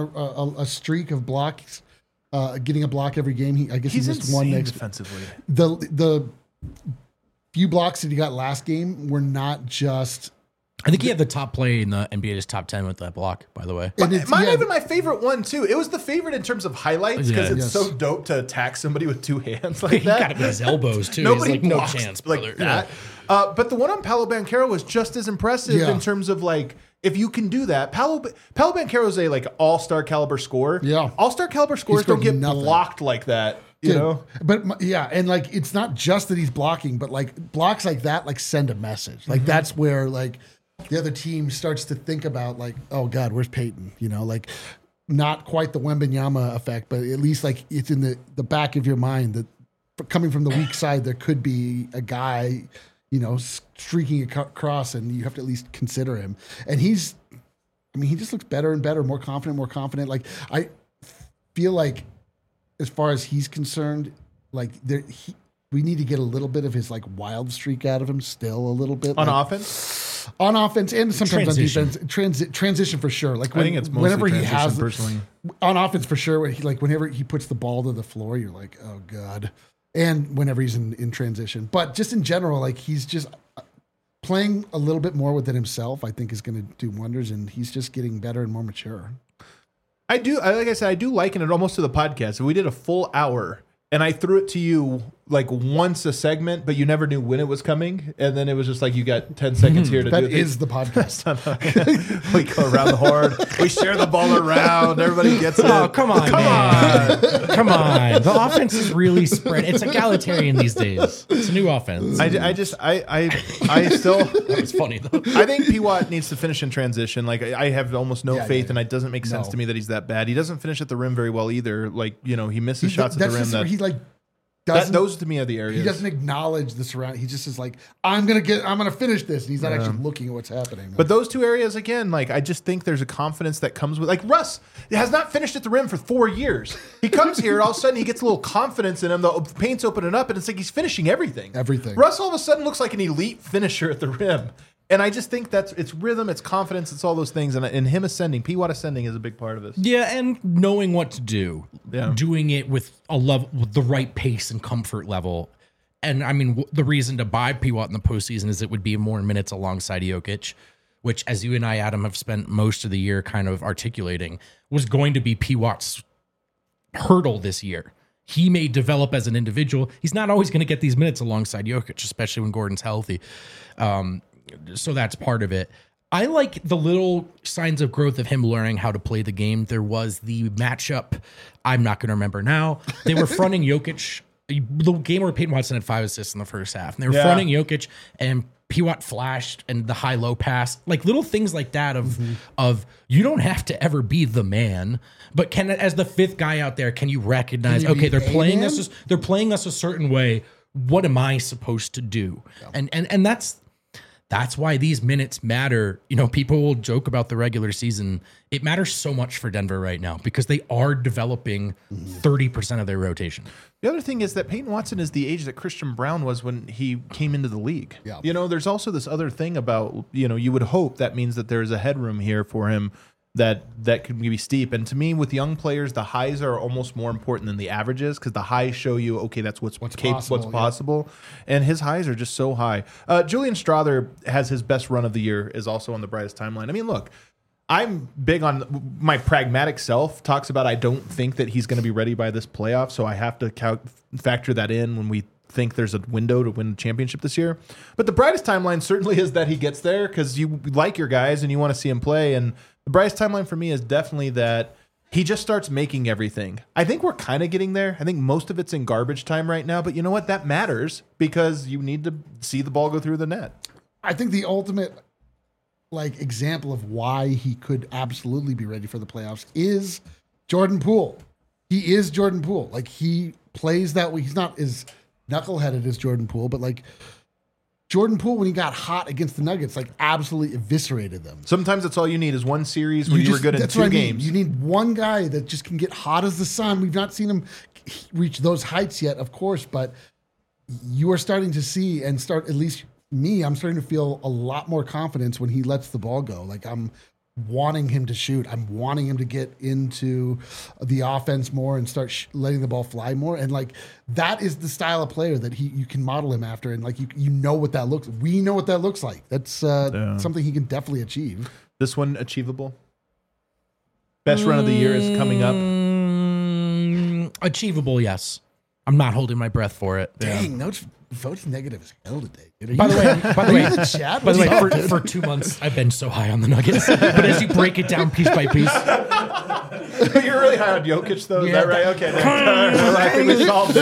a streak of blocks, getting a block every game. I guess He's he missed one next defensively. The few blocks that he got last game were not just. I think he had the top play in the NBA's top 10 with that block, by the way. Might have been my favorite one, too. It was the favorite in terms of highlights because it's Yes. so dope to attack somebody with two hands like He that. got it with his elbows, too. Nobody He's like, no blocks chance, brother. like that. But the one on Paolo Banchero was just as impressive Yeah. in terms of like, if you can do that. Paolo Banchero is a like all-star caliber scorer. Yeah. All-star caliber scorers don't scored get nothing. blocked like that. You Dude, know? But yeah, and like it's not just that he's blocking, but like blocks like that like send a message. Like that's where like the other team starts to think about like, oh God, where's Peyton? You know, like not quite the Wembanyama effect, but at least like it's in the back of your mind that coming from the weak side, there could be a guy, you know, streaking across, and you have to at least consider him. And he just looks better and better, more confident. Like I feel like, as far as he's concerned, like we need to get a little bit of his like wild streak out of him still a little bit On like, offense? on offense and sometimes Transition. on defense. Transition for sure. Like I think it's mostly whenever he transition, has personally. on offense for sure. Whenever he puts the ball to the floor, you're like, oh God. And whenever he's in transition, but just in general, like he's just playing a little bit more within himself. I think is going to do wonders, and he's just getting better and more mature. Like I said, I do liken it almost to the podcast. We did a full hour and I threw it to you like once a segment, but you never knew when it was coming. And then it was just like, you got 10 seconds here to That do it. is the podcast. We go around the horn. We share the ball around. Everybody gets it. Oh, come on, man. Come on. The offense is really spread. It's egalitarian these days. It's a new offense. I still, It's funny, though. I think P-Watt needs to finish in transition. Like I have almost no faith, yeah. and it doesn't make sense No. to me that he's that bad. He doesn't finish at the rim very well either. Like, you know, he misses shots at the That's rim. just where he like That, doesn't. those to me are the areas. He doesn't acknowledge the surround. He just is like, I'm gonna finish this, and he's not actually looking at what's happening. But those two areas, again, like I just think there's a confidence that comes with, like Russ has not finished at the rim for 4 years. He comes here, and all of a sudden he gets a little confidence in him. The paint's opening up, and it's like he's finishing everything. Everything. Russ all of a sudden looks like an elite finisher at the rim. And I just think it's rhythm, it's confidence, it's all those things. And him ascending, P. Watt ascending is a big part of this. Yeah, and knowing what to do, doing it with with the right pace and comfort level. And I mean, the reason to buy P. Watt in the postseason is it would be more minutes alongside Jokic, which, as you and I, Adam, have spent most of the year kind of articulating, was going to be P. Watt's hurdle this year. He may develop as an individual. He's not always going to get these minutes alongside Jokic, especially when Gordon's healthy. So that's part of it. I like the little signs of growth of him learning how to play the game. There was the matchup. I'm not going to remember now. They were fronting Jokic. The game where Peyton Watson had 5 assists in the first half. And they were fronting Jokic, and P. Watt flashed, and the high-low pass. Like little things like that of you don't have to ever be the man, but can, as the fifth guy out there, can you recognize, okay, they're playing us a certain way. What am I supposed to do? Yeah. And that's why these minutes matter. You know, people will joke about the regular season. It matters so much for Denver right now because they are developing 30% of their rotation. The other thing is that Peyton Watson is the age that Christian Brown was when he came into the league. Yeah. You know, there's also this other thing about, you know, you would hope that means that there's a headroom here for him that could be steep. And to me, with young players, the highs are almost more important than the averages because the highs show you, okay, that's what's possible. And his highs are just so high. Julian Strawther has his best run of the year, is also on the brightest timeline. I mean, look, I'm big on my pragmatic self talks about I don't think that he's going to be ready by this playoff, so I have to factor that in when we think there's a window to win the championship this year. But the brightest timeline certainly is that he gets there because you like your guys and you want to see him play. And the brightest timeline for me is definitely that he just starts making everything. I think we're kind of getting there. I think most of it's in garbage time right now, but you know what? That matters because you need to see the ball go through the net. I think the ultimate example of why he could absolutely be ready for the playoffs is Jordan Poole. He is Jordan Poole. Like, he plays that way. He's not as knuckleheaded as Jordan Poole, but Jordan Poole, when he got hot against the Nuggets, absolutely eviscerated them. Sometimes that's all you need is one series where you were good in 2 games. You need one guy that just can get hot as the sun. We've not seen him reach those heights yet, of course, but you are starting to see and start, at least me, I'm starting to feel a lot more confidence when he lets the ball go. I'm wanting him to shoot. I'm wanting him to get into the offense more and start letting the ball fly more. And that is the style of player that you can model him after. And you know what that looks. We know what that looks like. That's something he can definitely achieve. This one achievable. Best run of the year is coming up. Achievable, yes. I'm not holding my breath for it. Dang, no votes negative as hell today. By the way, chat? for 2 months, I've been so high on the Nuggets. But as you break it down piece by piece, you're really high on Jokic, though. Is that right? Okay, I think we solved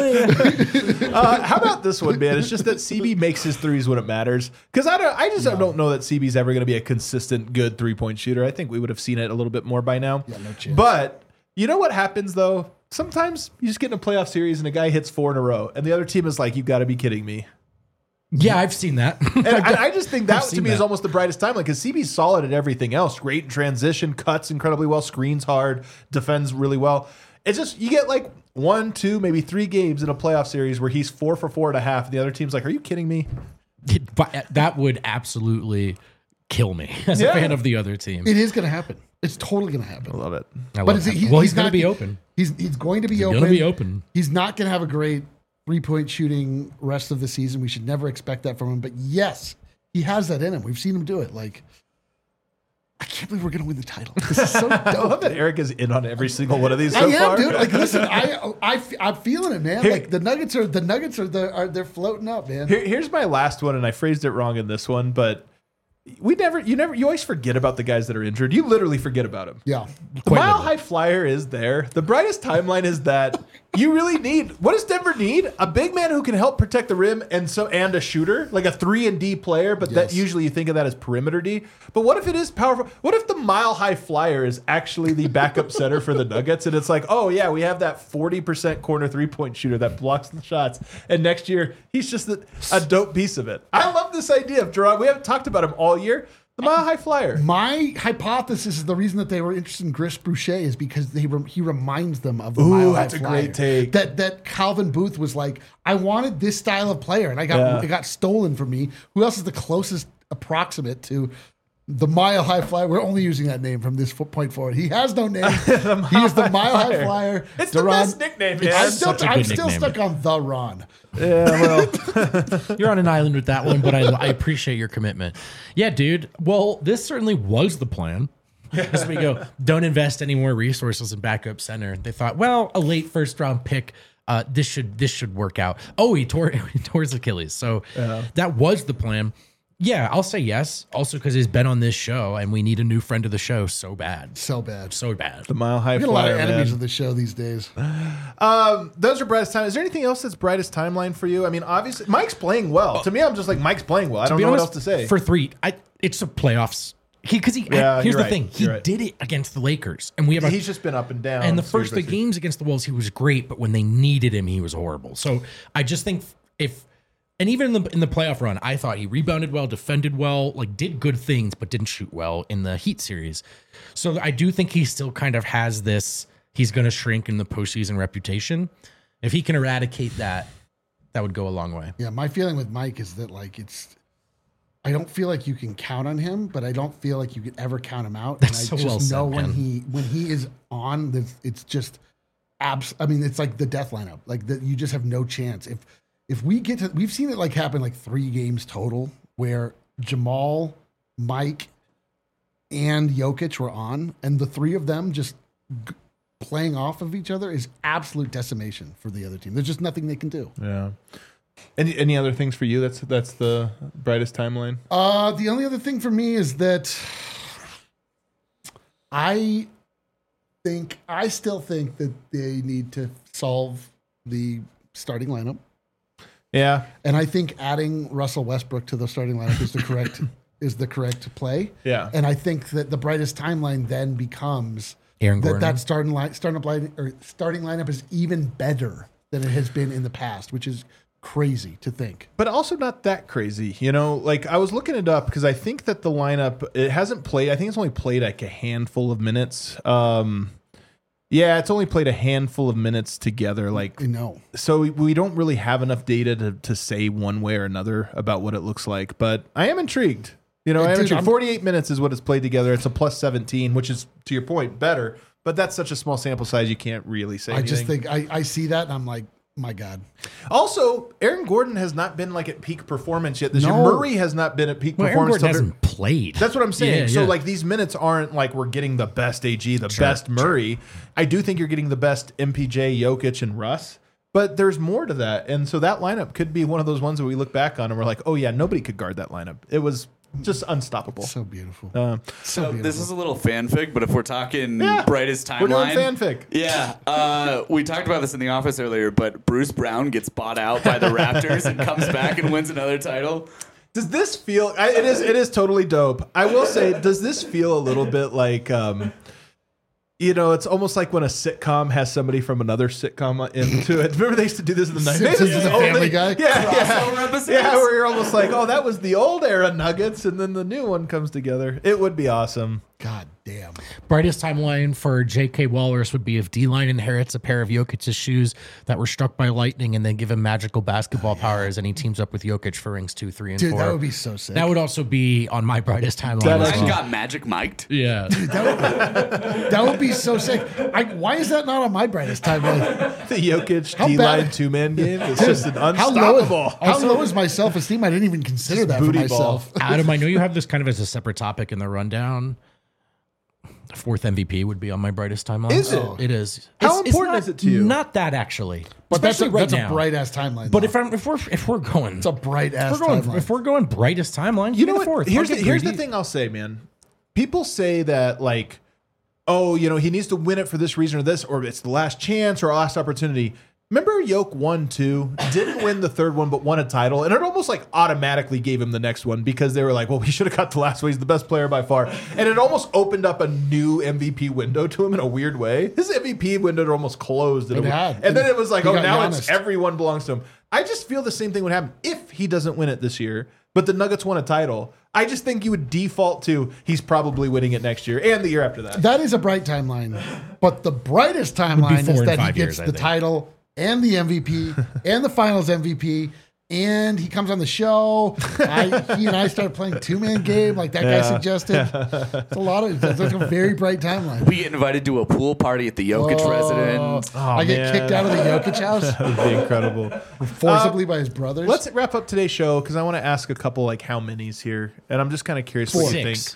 it. How about this one, man? It's just that CB makes his threes when it matters. Because I don't know that CB's ever going to be a consistent, good 3-point shooter. I think we would have seen it a little bit more by now. Yeah, no chance. But you know what happens, though? Sometimes you just get in a playoff series and a guy hits 4 in a row, and the other team is like, "You've got to be kidding me." Yeah, I've seen that. And I just think that to me is almost the brightest time, because CB's solid at everything else. Great in transition, cuts incredibly well, screens hard, defends really well. It's just you get 1, 2, maybe 3 games in a playoff series where he's 4 for 4.5, and the other team's like, "Are you kidding me?" That would absolutely kill me as a fan of the other team. It is going to happen. It's totally going to happen. I love it. He's going to be open. He's going to be open. Going to be open. He's not going to have a great 3-point shooting rest of the season. We should never expect that from him. But yes, he has that in him. We've seen him do it. I can't believe we're going to win the title. This is so dope. I love that Eric is in on every single one of these so far. I am, dude. Listen, I'm feeling it, man. The Nuggets are they're floating up, man. Here's my last one, and I phrased it wrong in this one, but you always forget about the guys that are injured. You literally forget about them. Yeah. The Mile High Flyer is there. The brightest timeline is that you really need, what does Denver need? A big man who can help protect the rim and a shooter, like a 3-and-D player, but that usually you think of that as perimeter D. But what if it is powerful? What if the Mile High Flyer is actually the backup center for the Nuggets, and it's like, oh yeah, we have that 40% corner 3-point shooter that blocks the shots, and next year he's just a dope piece of it. I love this idea of Jerome. We haven't talked about him all year. The Mile High Flyer. My hypothesis is the reason that they were interested in Chris Boucher is because he reminds them of the Mile High Flyer. That's a great take. That Calvin Booth was like, I wanted this style of player, and it got stolen from me. Who else is the closest approximate to the Mile High Flyer. We're only using that name from this point forward. He has no name. He is the Mile High Flyer. It's the best nickname, man. I'm Such a good still nickname. stuck on the Ron. Yeah, well, You're on an island with that one, but I appreciate your commitment. Yeah, dude. Well, this certainly was the plan. As we go, don't invest any more resources in backup center. They thought, well, a late first round pick, this should work out. Oh, he tore his Achilles. So that was the plan. Yeah, I'll say yes. Also, because he's been on this show, and we need a new friend of the show so bad, So bad. so bad. the Mile High We get a lot Flyer, of enemies man. of the show these days. Those are brightest time. Is there anything else that's brightest timeline for you? I mean, obviously, Mike's playing well. To me, I'm just like, Mike's playing well. I don't be know what honest, else to say. For three, it's the playoffs. Here's you're the right. thing. He You're right. did it against the Lakers, and we have He's just been up and down. And the series first by three series. games against the Wolves, he was great, but when they needed him, he was horrible. So I just think and even in the playoff run, I thought he rebounded well, defended well, like did good things, but didn't shoot well in the Heat series. So I do think he still kind of has this, he's going to shrink in the postseason reputation. If he can eradicate that, that would go a long way. Yeah, my feeling with Mike is that I don't feel like you can count on him, but I don't feel like you could ever count him out. That's and I so just well know said, when he is on, it's just I mean, it's like the death lineup. Like that, you just have no chance. If we get to, we've seen it like happen like 3 games total where Jamal, Mike, and Jokic were on, and the 3 of them just playing off of each other is absolute decimation for the other team. There's just nothing they can do. Yeah. Any other things for you? That's the brightest timeline. The only other thing for me is that I still think that they need to solve the starting lineup. Yeah. And I think adding Russell Westbrook to the starting lineup is the correct play. Yeah. And I think that the brightest timeline then becomes Aaron Gordon. that starting lineup is even better than it has been in the past, which is crazy to think. But also not that crazy, you know. Like I was looking it up because I think that the lineup it hasn't played. I think it's only played like a handful of minutes. Yeah, it's only played a handful of minutes together. Like No. so, we don't really have enough data to say one way or another about what it looks like. But I am intrigued. You know, I am Dude, intrigued. 48 minutes is what it's played together. It's a plus 17, which is to your point better. But that's such a small sample size, you can't really say. I just anything. think I see that and I'm like, my God. Also, Aaron Gordon has not been like at peak performance yet this year. No. Murray has not been at peak Well, Aaron performance. Gordon till they're- hasn't played. That's what I'm saying. Yeah, So yeah. like these minutes aren't like we're getting the best AG, the best Murray. I do think you're getting the best MPJ, Jokic, and Russ. But there's more to that. And so that lineup could be one of those ones that we look back on and we're like, oh yeah, nobody could guard that lineup. It was just unstoppable. So beautiful. So So beautiful. This is a little fanfic, but if we're talking Yeah, brightest we're doing timeline, fanfic. yeah, we talked about this in the office earlier, but Bruce Brown gets bought out by the Raptors and comes back and wins another title. Does this feel? It is totally dope. I will say, does this feel a little bit like, you know, it's almost like when a sitcom has somebody from another sitcom into it. Remember they used to do this in the 90s? Simpsons is a Family Guy? Yeah, Crossover yeah. episodes? Yeah, where you're almost like, oh, that was the old era Nuggets, and then the new one comes together. It would be awesome. God damn. Brightest timeline for J.K. Walrus would be if D-Line inherits a pair of Jokic's shoes that were struck by lightning and then give him magical basketball powers, and he teams up with Jokic for rings 2, 3, and Dude, 4. that would be so sick. That would also be on my brightest timeline. That as actually well. Got Magic Mic'd. Yeah. That would be so sick. Why is that not on my brightest timeline? The Jokic How D-line bad- two-man game. It's just an How low, unstoppable. how low is my self-esteem? I didn't even consider that for booty ball. myself. Adam, I know you have this kind of as a separate topic in the rundown. The 4th MVP would be on my brightest timeline. Is it? Oh, it is. How It's important not- is it to you? Not that actually. But that's Especially right a now. bright ass timeline. But though. if we're going, it's a bright ass timeline. if we're going brightest timeline, You know give me what? the 4th. Here's I'll the, get here's the greedy. thing I'll say, man. People say that like, oh, you know, he needs to win it for this reason or this, or it's the last chance or last opportunity. Remember Yoke won 2, didn't win the 3rd one, but won a title. And it almost like automatically gave him the next one because they were like, well, he should have got the last one. He's the best player by far. And it almost opened up a new MVP window to him in a weird way. His MVP window almost closed. It had. And then it was like, He oh, got now Giannis. it's everyone belongs to him. I just feel the same thing would happen if he doesn't win it this year, but the Nuggets won a title. I just think you would default to he's probably winning it next year and the year after that. That is a bright timeline. But the brightest timeline 4 is and that he 5 gets years, I the think. title and the MVP and the finals MVP and he comes on the show. He and I started playing 2-man game like that guy suggested. It's a lot of that's a very bright timeline. We get invited to a pool party at the Jokic residence. I get kicked out of the Jokic house That would be incredible. forcibly by his brothers. Let's wrap up today's show because I want to ask a couple like how many's here, and I'm just kind of curious what you think. 6.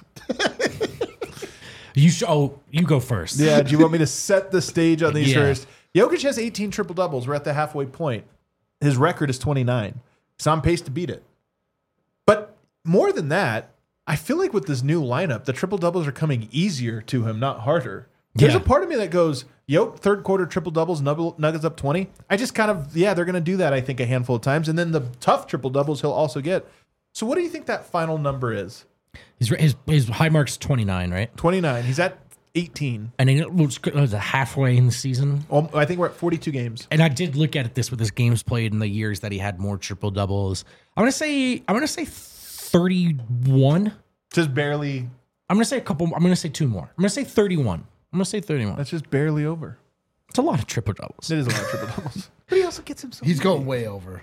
You go first. Yeah, do you want me to set the stage on these Yeah. first? Jokic has 18 triple doubles. We're at the halfway point. His record is 29. He's on pace to beat it. But more than that, I feel like with this new lineup, the triple doubles are coming easier to him, not harder. There's Yeah. a part of me that goes, third quarter triple doubles, Nuggets up 20. I just kind of, they're going to do that, I think, a handful of times. And then the tough triple doubles he'll also get. So what do you think that final number is? His high mark's 29, right? 29. He's at 18. And it was halfway in the season. I think we're at 42 games. And I did look at this with his games played in the years that he had more triple doubles. I'm gonna say 31. Just barely. I'm gonna say 2 more. I'm gonna say 31. I'm gonna say 31. That's just barely over. It's a lot of triple doubles. It is a lot of triple doubles. But he also gets himself. He's going way over.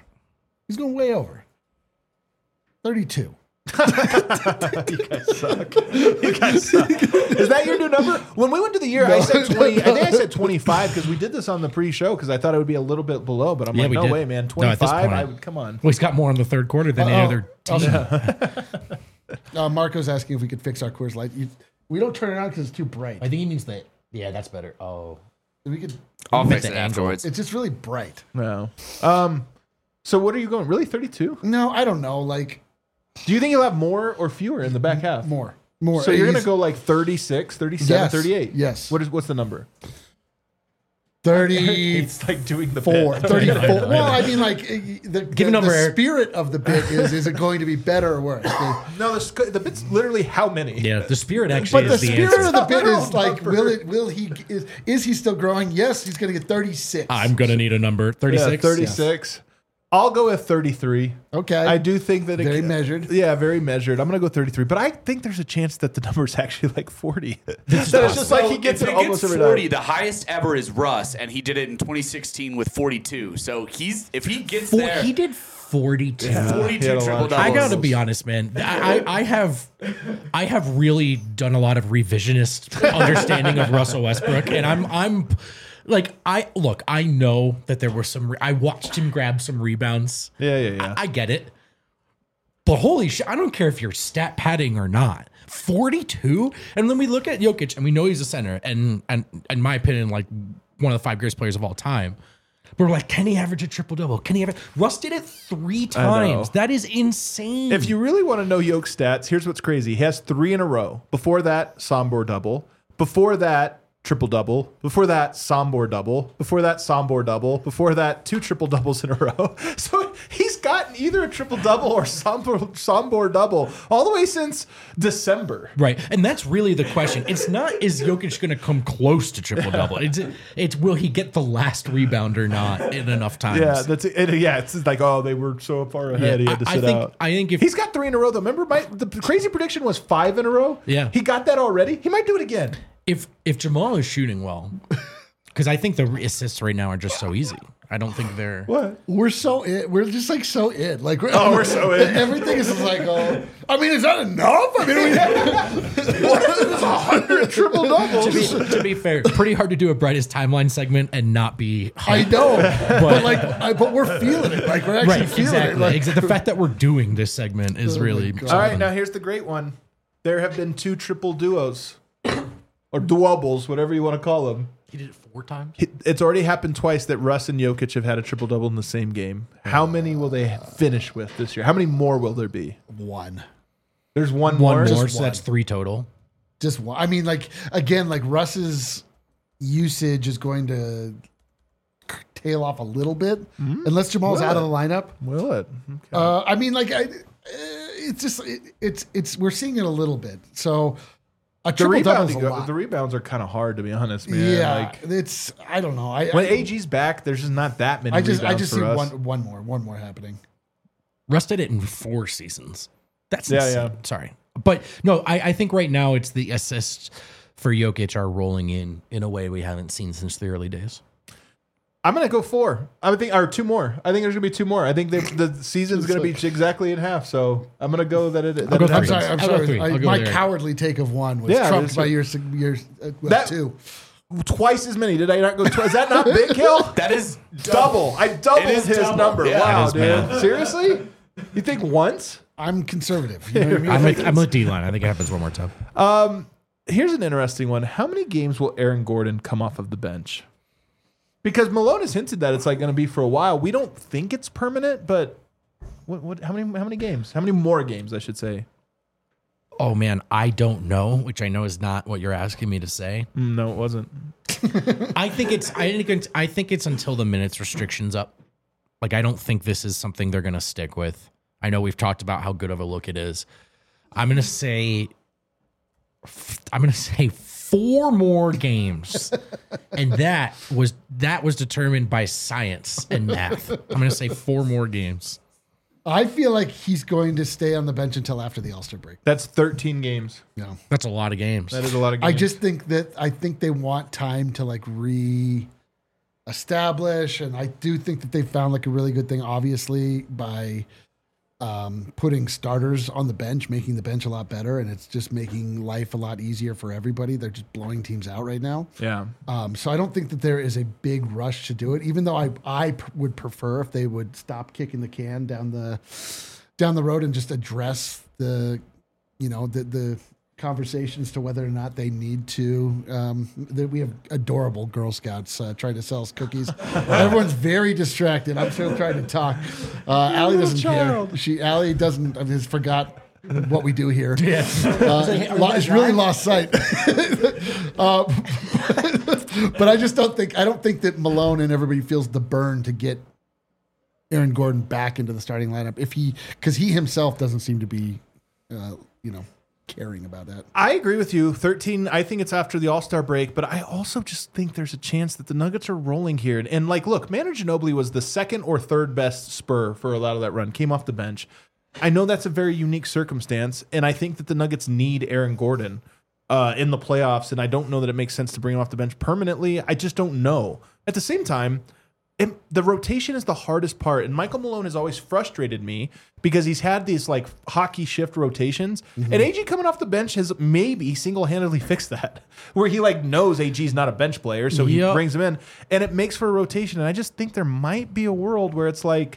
32. You guys suck. You guys suck. Is that your new number? When we went to the year, I said 20. I think I said 25 because we did this on the pre-show because I thought it would be a little bit below. But I'm Yeah, like, we no did. way, man. No, at this 25. point. I would come on. Well, he's got more in the third quarter than any other team. Marco's asking if we could fix our Coors Light. We don't turn it on because it's too bright. I think he means that. Yeah, that's better. Oh, We could. I'll fix the it angle. afterwards. It's just really bright. No. So what are you going? Really, 32? No, I don't know. Like Do you think you'll have more or fewer in the back half? more. So you're going to He's go like 36, 37, Yes. 38? Yes. What's the number? 34, It's like doing the bit. 34. Well, I mean, like Give a number, the Eric. spirit of the bit is it going to be better or worse? No, the bit's literally how many? yeah. The spirit actually But the is the spirit answer. of the bit is Literal like, number. will he is he still growing? Yes, he's going to get 36. I'm gonna need a number. 36. Yeah, 36. I'll go with 33. Okay. I do think that Very measured. Yeah, very measured. I'm going to go 33, but I think there's a chance that the number's actually like 40. That it's just like he gets if it he almost gets every 40, night. the highest ever is Russ, and he did it in 2016 with 42. So if he gets there, He did 42. Yeah. 42 He had a lot triple of doubles. I gotta be honest, man. I have really done a lot of revisionist understanding of Russell Westbrook, and I'm like I know that there were some. I watched him grab some rebounds. Yeah. I get it, but holy shit, I don't care if you're stat padding or not. 42, and then we look at Jokic, and we know he's a center, and in my opinion, like one of the 5 greatest players of all time. But we're like, can he average a triple double? Can he Russ did it 3 times. That is insane. If you really want to know Yoke stats, here's what's crazy. He has 3 in a row. Before that, Sombor double. Before that, triple double. Before that, Sombor double. Before that, Sombor double. Before that, 2 triple doubles in a row. So he's gotten either a triple double or Sombor double all the way since December. Right. And that's really the question. It's not, is Jokic going to come close to triple double? It's will he get the last rebound or not in enough times? Yeah, that's it. Yeah, it's like, oh, they were so far ahead. He had to sit out. I think if He's got 3 in a row, though. Remember, the crazy prediction was 5 in a row? Yeah. He got that already. He might do it again. if Jamal is shooting well, because I think the assists right now are just so easy. I don't think they're. What? We're just like so in. Like we're so in. Everything is just like, oh, I mean, is that enough? I mean, what is 100 triple doubles? To be fair, it's pretty hard to do a brightest timeline segment and not be. I know, but we're feeling it. Like we're actually Right, feeling exactly. it. Like, Exactly. The fact that we're doing this segment is really. God. All right, now here's the great one. There have been 2 triple duos. Or duobles, whatever you want to call them. He did it 4 times. It's already happened twice that Russ and Jokic have had a triple double in the same game. How many will they finish with this year? How many more will there be? one. There's one One more. more, Just so that's 3 total. Just one. I mean, like again, like Russ's usage is going to tail off a little bit unless Jamal's Will out of it? the lineup. Will it? Okay. I mean, like it's just it's we're seeing it a little bit. So a the triple double rebounds, is a lot. the rebounds are kind of hard, to be honest, man. Yeah, Like, it's I don't know. when AG's back, there's just not that many I rebounds just for see us. one more happening. Russ did it in 4 seasons. That's Yeah, insane. yeah. Sorry. But no, I think right now it's the assists for Jokic are rolling in a way we haven't seen since the early days. I'm gonna go 4. I think, or 2 more. I think there's gonna be 2 more. I think the season's gonna be exactly in half. So I'm gonna go that it. I'll go that it three. happens. I'm I'll go sorry. three. I'll go My there. cowardly take of 1 was Yeah, trumped that's by it. your That- 2. Twice as many. Did I not go? Is that not big, Kill? That is double. I doubled It is his double. number. Yeah. Wow, That is dude. math. Seriously? You think once? I'm conservative. You know what I mean? I'm with D-line. I think it happens one more time. Here's an interesting one. How many games will Aaron Gordon come off of the bench? Because Malone has hinted that it's like going to be for a while. We don't think it's permanent, but how many games? How many more games, I should say? Oh man, I don't know, which I know is not what you're asking me to say. No, it wasn't. I think it's until the minutes restriction's up. Like I don't think this is something they're going to stick with. I know we've talked about how good of a look it is. I'm going to say 4 more games. And that was determined by science and math. I'm going to say 4 more games. I feel like he's going to stay on the bench until after the All-Star break. That's 13 games. Yeah. That's a lot of games. That is a lot of games. I just think they want time to like re-establish, and I do think that they found like a really good thing, obviously, by putting starters on the bench, making the bench a lot better, and it's just making life a lot easier for everybody. They're just blowing teams out right now. Yeah. So I don't think that there is a big rush to do it, even though I would prefer if they would stop kicking the can down the road and just address the conversations to whether or not they need to. We have adorable Girl Scouts trying to sell us cookies. Everyone's very distracted. I'm still trying to talk. Allie doesn't care. Allie doesn't. I just forgot what we do here. Yeah. It's really lost sight. But I just don't think that Malone and everybody feels the burn to get Aaron Gordon back into the starting lineup because he himself doesn't seem to be, caring about that. I agree with you. 13, I think it's after the All-Star break, but I also just think there's a chance that the Nuggets are rolling here. And like, look, Manu Ginobili was the 2nd or 3rd best Spur for a lot of that run, came off the bench. I know that's a very unique circumstance, and I think that the Nuggets need Aaron Gordon in the playoffs, and I don't know that it makes sense to bring him off the bench permanently. I just don't know. At the same time, the rotation is the hardest part, and Michael Malone has always frustrated me because he's had these like hockey shift rotations, and AG coming off the bench has maybe single-handedly fixed that, where he like knows AG's not a bench player, so he brings him in, and it makes for a rotation. And I just think there might be a world where it's like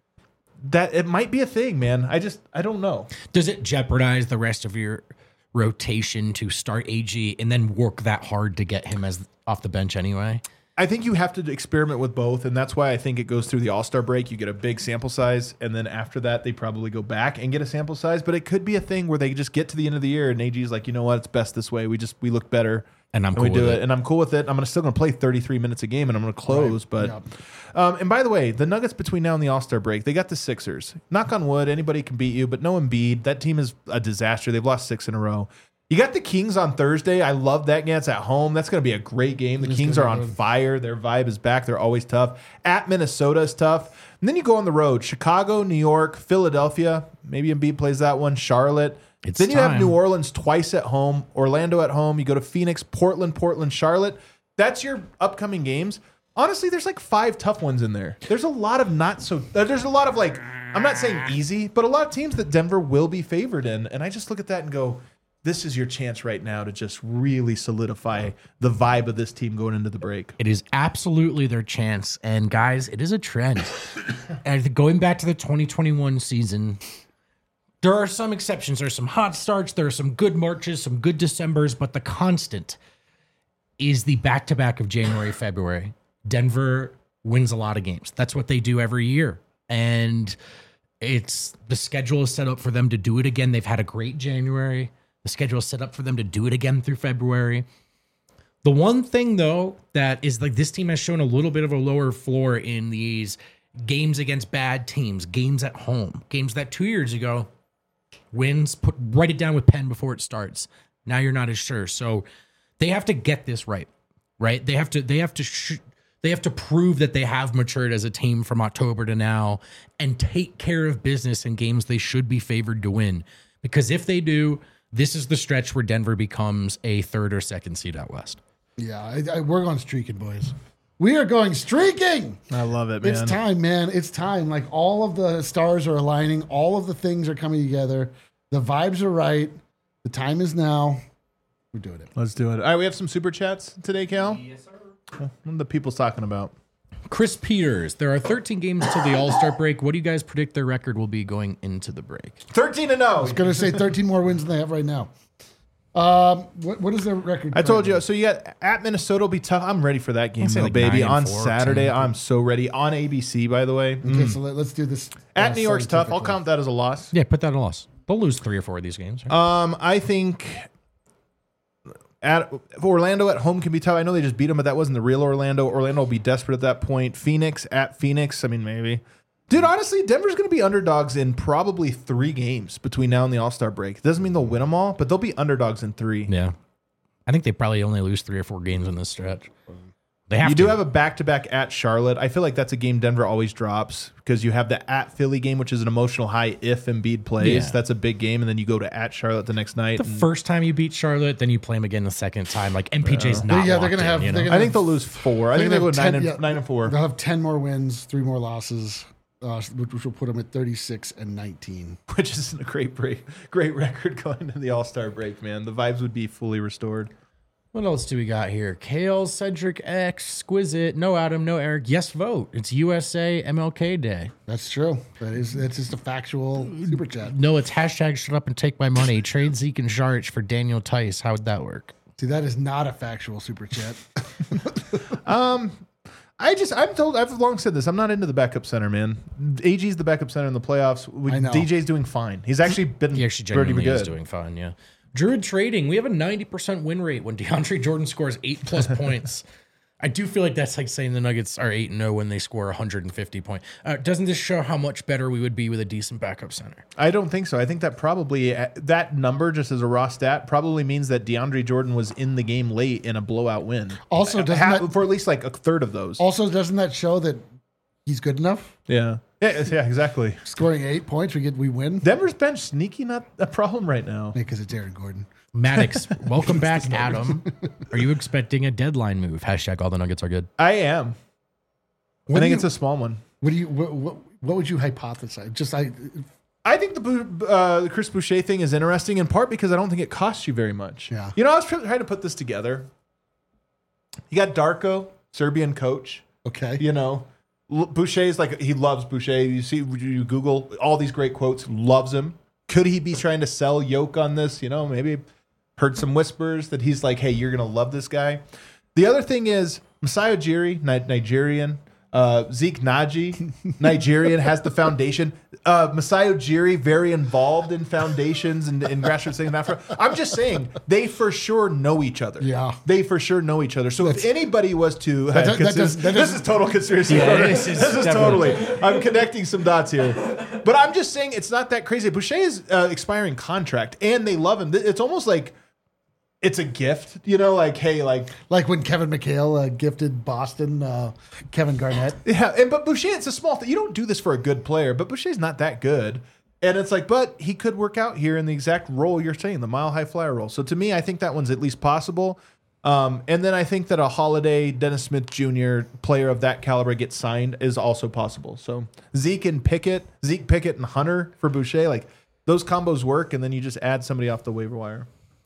that. It might be a thing, man. I don't know. Does it jeopardize the rest of your rotation to start AG and then work that hard to get him as off the bench anyway? I think you have to experiment with both, and that's why I think it goes through the All-Star break. You get a big sample size, and then after that, they probably go back and get a sample size. But it could be a thing where they just get to the end of the year, and AG's like, you know what, it's best this way. We look better, and we do it, and I'm cool with it. I'm still going to play 33 minutes a game, and I'm going to close. Right. But and by the way, the Nuggets between now and the All-Star break, they got the Sixers. Knock on wood, anybody can beat you, but no Embiid. That team is a disaster. They've lost 6 in a row. You got the Kings on Thursday. I love that game. It's at home. That's going to be a great game. The Kings are on fire. Their vibe is back. They're always tough. At Minnesota is tough. And then you go on the road. Chicago, New York, Philadelphia. Maybe Embiid plays that one. Charlotte. Then you have New Orleans twice at home. Orlando at home. You go to Phoenix, Portland, Charlotte. That's your upcoming games. Honestly, there's like 5 tough ones in there. There's a lot of there's a lot of like, I'm not saying easy, but a lot of teams that Denver will be favored in. And I just look at that and go, this is your chance right now to just really solidify the vibe of this team going into the break. It is absolutely their chance. And guys, it is a trend. And going back to the 2021 season, there are some exceptions. There are some hot starts. There are some good Marches, some good Decembers, but the constant is the back-to-back of January, February. Denver wins a lot of games. That's what they do every year. And the schedule is set up for them to do it again. They've had a great January. The schedule is set up for them to do it again through February. The one thing, though, that is like this team has shown a little bit of a lower floor in these games against bad teams, games at home, games that 2 years ago, wins, write it down with pen before it starts. Now you're not as sure. So they have to get this right? They have to prove that they have matured as a team from October to now and take care of business in games they should be favored to win. Because if they do, this is the stretch where Denver becomes a 3rd or 2nd seed out west. Yeah, we're going streaking, boys. We are going streaking. I love it, man. It's time, man. It's time. Like all of the stars are aligning. All of the things are coming together. The vibes are right. The time is now. We're doing it. Let's do it. All right, we have some super chats today, Cal. Yes, sir. What are the people's talking about? Chris Peters, there are 13 games till the All-Star break. What do you guys predict their record will be going into the break? 13-0. I was going to say 13 more wins than they have right now. What is their record? I told you. So you got at Minnesota will be tough. I'm ready for that game, say though, like baby. 9-4, On Saturday, 10-4. I'm so ready. On ABC, by the way. Okay, so let's do this. At New York's tough. I'll scientifically. count that as a loss. Yeah, put that at a loss. They'll lose 3 or 4 of these games. Right? I think Orlando at home can be tough. I know they just beat them, but that wasn't the real Orlando. Orlando will be desperate at that point. Phoenix at Phoenix. I mean, maybe. Dude, honestly, Denver's going to be underdogs in probably 3 games between now and the All-Star break. It doesn't mean they'll win them all, but they'll be underdogs in 3. Yeah. I think they probably only lose 3 or 4 games in this stretch. They have You to. do have a back-to-back at Charlotte. I feel like that's a game Denver always drops because you have the at Philly game, which is an emotional high if Embiid plays. Yeah. That's a big game, and then you go to at Charlotte the next night. the first time you beat Charlotte, then you play them again the second time. Like MPJ's not. Yeah, they're locked gonna have- in, you they're know? gonna- I think they'll lose 4. I think They're they'll gonna go have 10 9 and 4. They'll have 10 more wins, 3 more losses, which will put them at 36-19. Which isn't a great record going into the All-Star break, man. The vibes would be fully restored. What else do we got here? Kale, Cedric, Exquisite, no Adam, no Eric. Yes, vote. It's USA MLK Day. That's true. That's just a factual super chat. No, it's hashtag shut up and take my money. Trade Zeke and Sharich for Daniel Tice. How would that work? See, that is not a factual super chat. I've long said this. I'm not into the backup center, man. AG's the backup center in the playoffs. I know. DJ's doing fine. He's actually been He actually pretty genuinely is good. doing fine, yeah. Druid Trading, we have a 90% win rate when DeAndre Jordan scores 8+ points. I do feel like that's like saying the Nuggets are 8-0 when they score 150 points. Doesn't this show how much better we would be with a decent backup center? I don't think so. I think that probably that number, just as a raw stat, probably means that DeAndre Jordan was in the game late in a blowout win. Also, doesn't for at least like a third of those. doesn't that show that he's good enough? Yeah, exactly. Scoring 8 points, we win. Denver's bench sneaky not a problem right now. Because it's Aaron Gordon. Maddox, welcome back, Adam. Are you expecting a deadline move? Hashtag all the Nuggets are good. I am. What I think do it's a small one. What would you hypothesize? I think the Chris Boucher thing is interesting in part because I don't think it costs you very much. Yeah. You know, I was trying to put this together. You got Darko, Serbian coach. Okay. You know, Boucher's like, he loves Boucher. You see, you Google all these great quotes, loves him. Could he be trying to sell Yoke on this? You know, maybe heard some whispers that he's like, hey, you're going to love this guy. The other thing is Masai Ujiri, Nigerian. Zeke Naji, Nigerian, has the foundation. Masai Ujiri, very involved in foundations and in grassroots things in Africa. I'm just saying, they for sure know each other. Yeah. They for sure know each other. So if anybody was to... does- this is total conspiracy. This is totally... I'm connecting some dots here. But I'm just saying it's not that crazy. Boucher is expiring contract, and they love him. It's almost like it's a gift, you know, like, hey, like when Kevin McHale gifted Boston Kevin Garnett. yeah, but Boucher, it's a small thing. You don't do this for a good player, but Boucher's not that good. And it's like, but he could work out here in the exact role you're saying, the mile high flyer role. So to me, I think that one's at least possible. And then I think that a Holiday, Dennis Smith Jr. player of that caliber gets signed is also possible. So Zeke Pickett and Hunter for Boucher, like those combos work. And then you just add somebody off the waiver wire.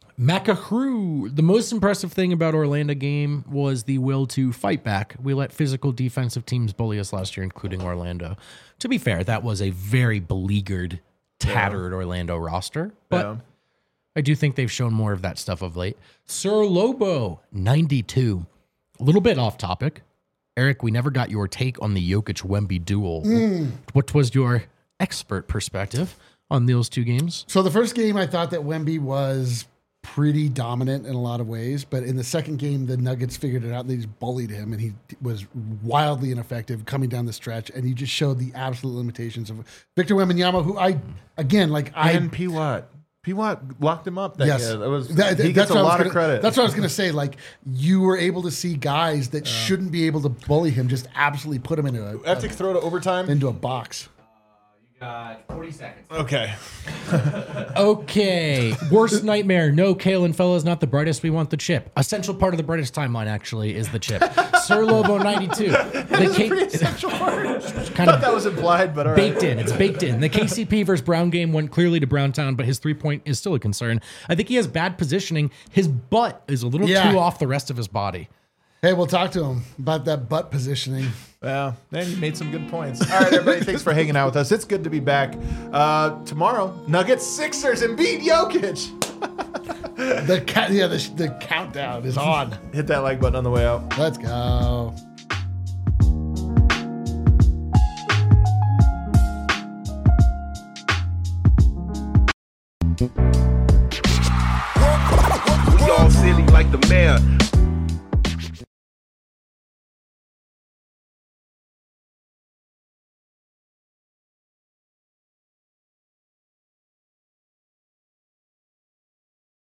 Macahru, the most impressive thing about Orlando game was the will to fight back. We let physical defensive teams bully us last year, including Orlando. To be fair, that was a very beleaguered, tattered Orlando roster, but Yeah. I do think they've shown more of that stuff of late. Sir Lobo, 92. A little bit off topic. Eric, we never got your take on the Jokic-Wemby duel. What was your expert perspective on those two games? So the first game, I thought that Wemby was pretty dominant in a lot of ways, but in the second game, the Nuggets figured it out. They just bullied him, and he was wildly ineffective coming down the stretch, and he just showed the absolute limitations of Victor Wembanyama, who And P. Watt. P. Watt locked him up that Yes. year. He gets a lot of credit. That's what I was going to say. Like, you were able to see guys that shouldn't be able to bully him, just absolutely put him into have to throw to overtime. into a box. Got 40 seconds. Okay. Okay. Worst nightmare. No, Kalen Fella's not the brightest. We want the chip. Essential part of the brightest timeline, actually, is the chip. Sir Lobo 92. Pretty essential part. Kind Thought of that was implied, but all right. baked in. It's baked in. The KCP versus Brown game went clearly to Browntown, but his 3-point is still a concern. I think he has bad positioning. His butt is a little too off the rest of his body. Hey, we'll talk to him about that butt positioning. Well, then you made some good points. All right, everybody, thanks for hanging out with us. It's good to be back. Tomorrow, Nuggets Sixers and beat Jokic. The countdown is on. Hit that like button on the way out. Let's go. We all silly like the mayor.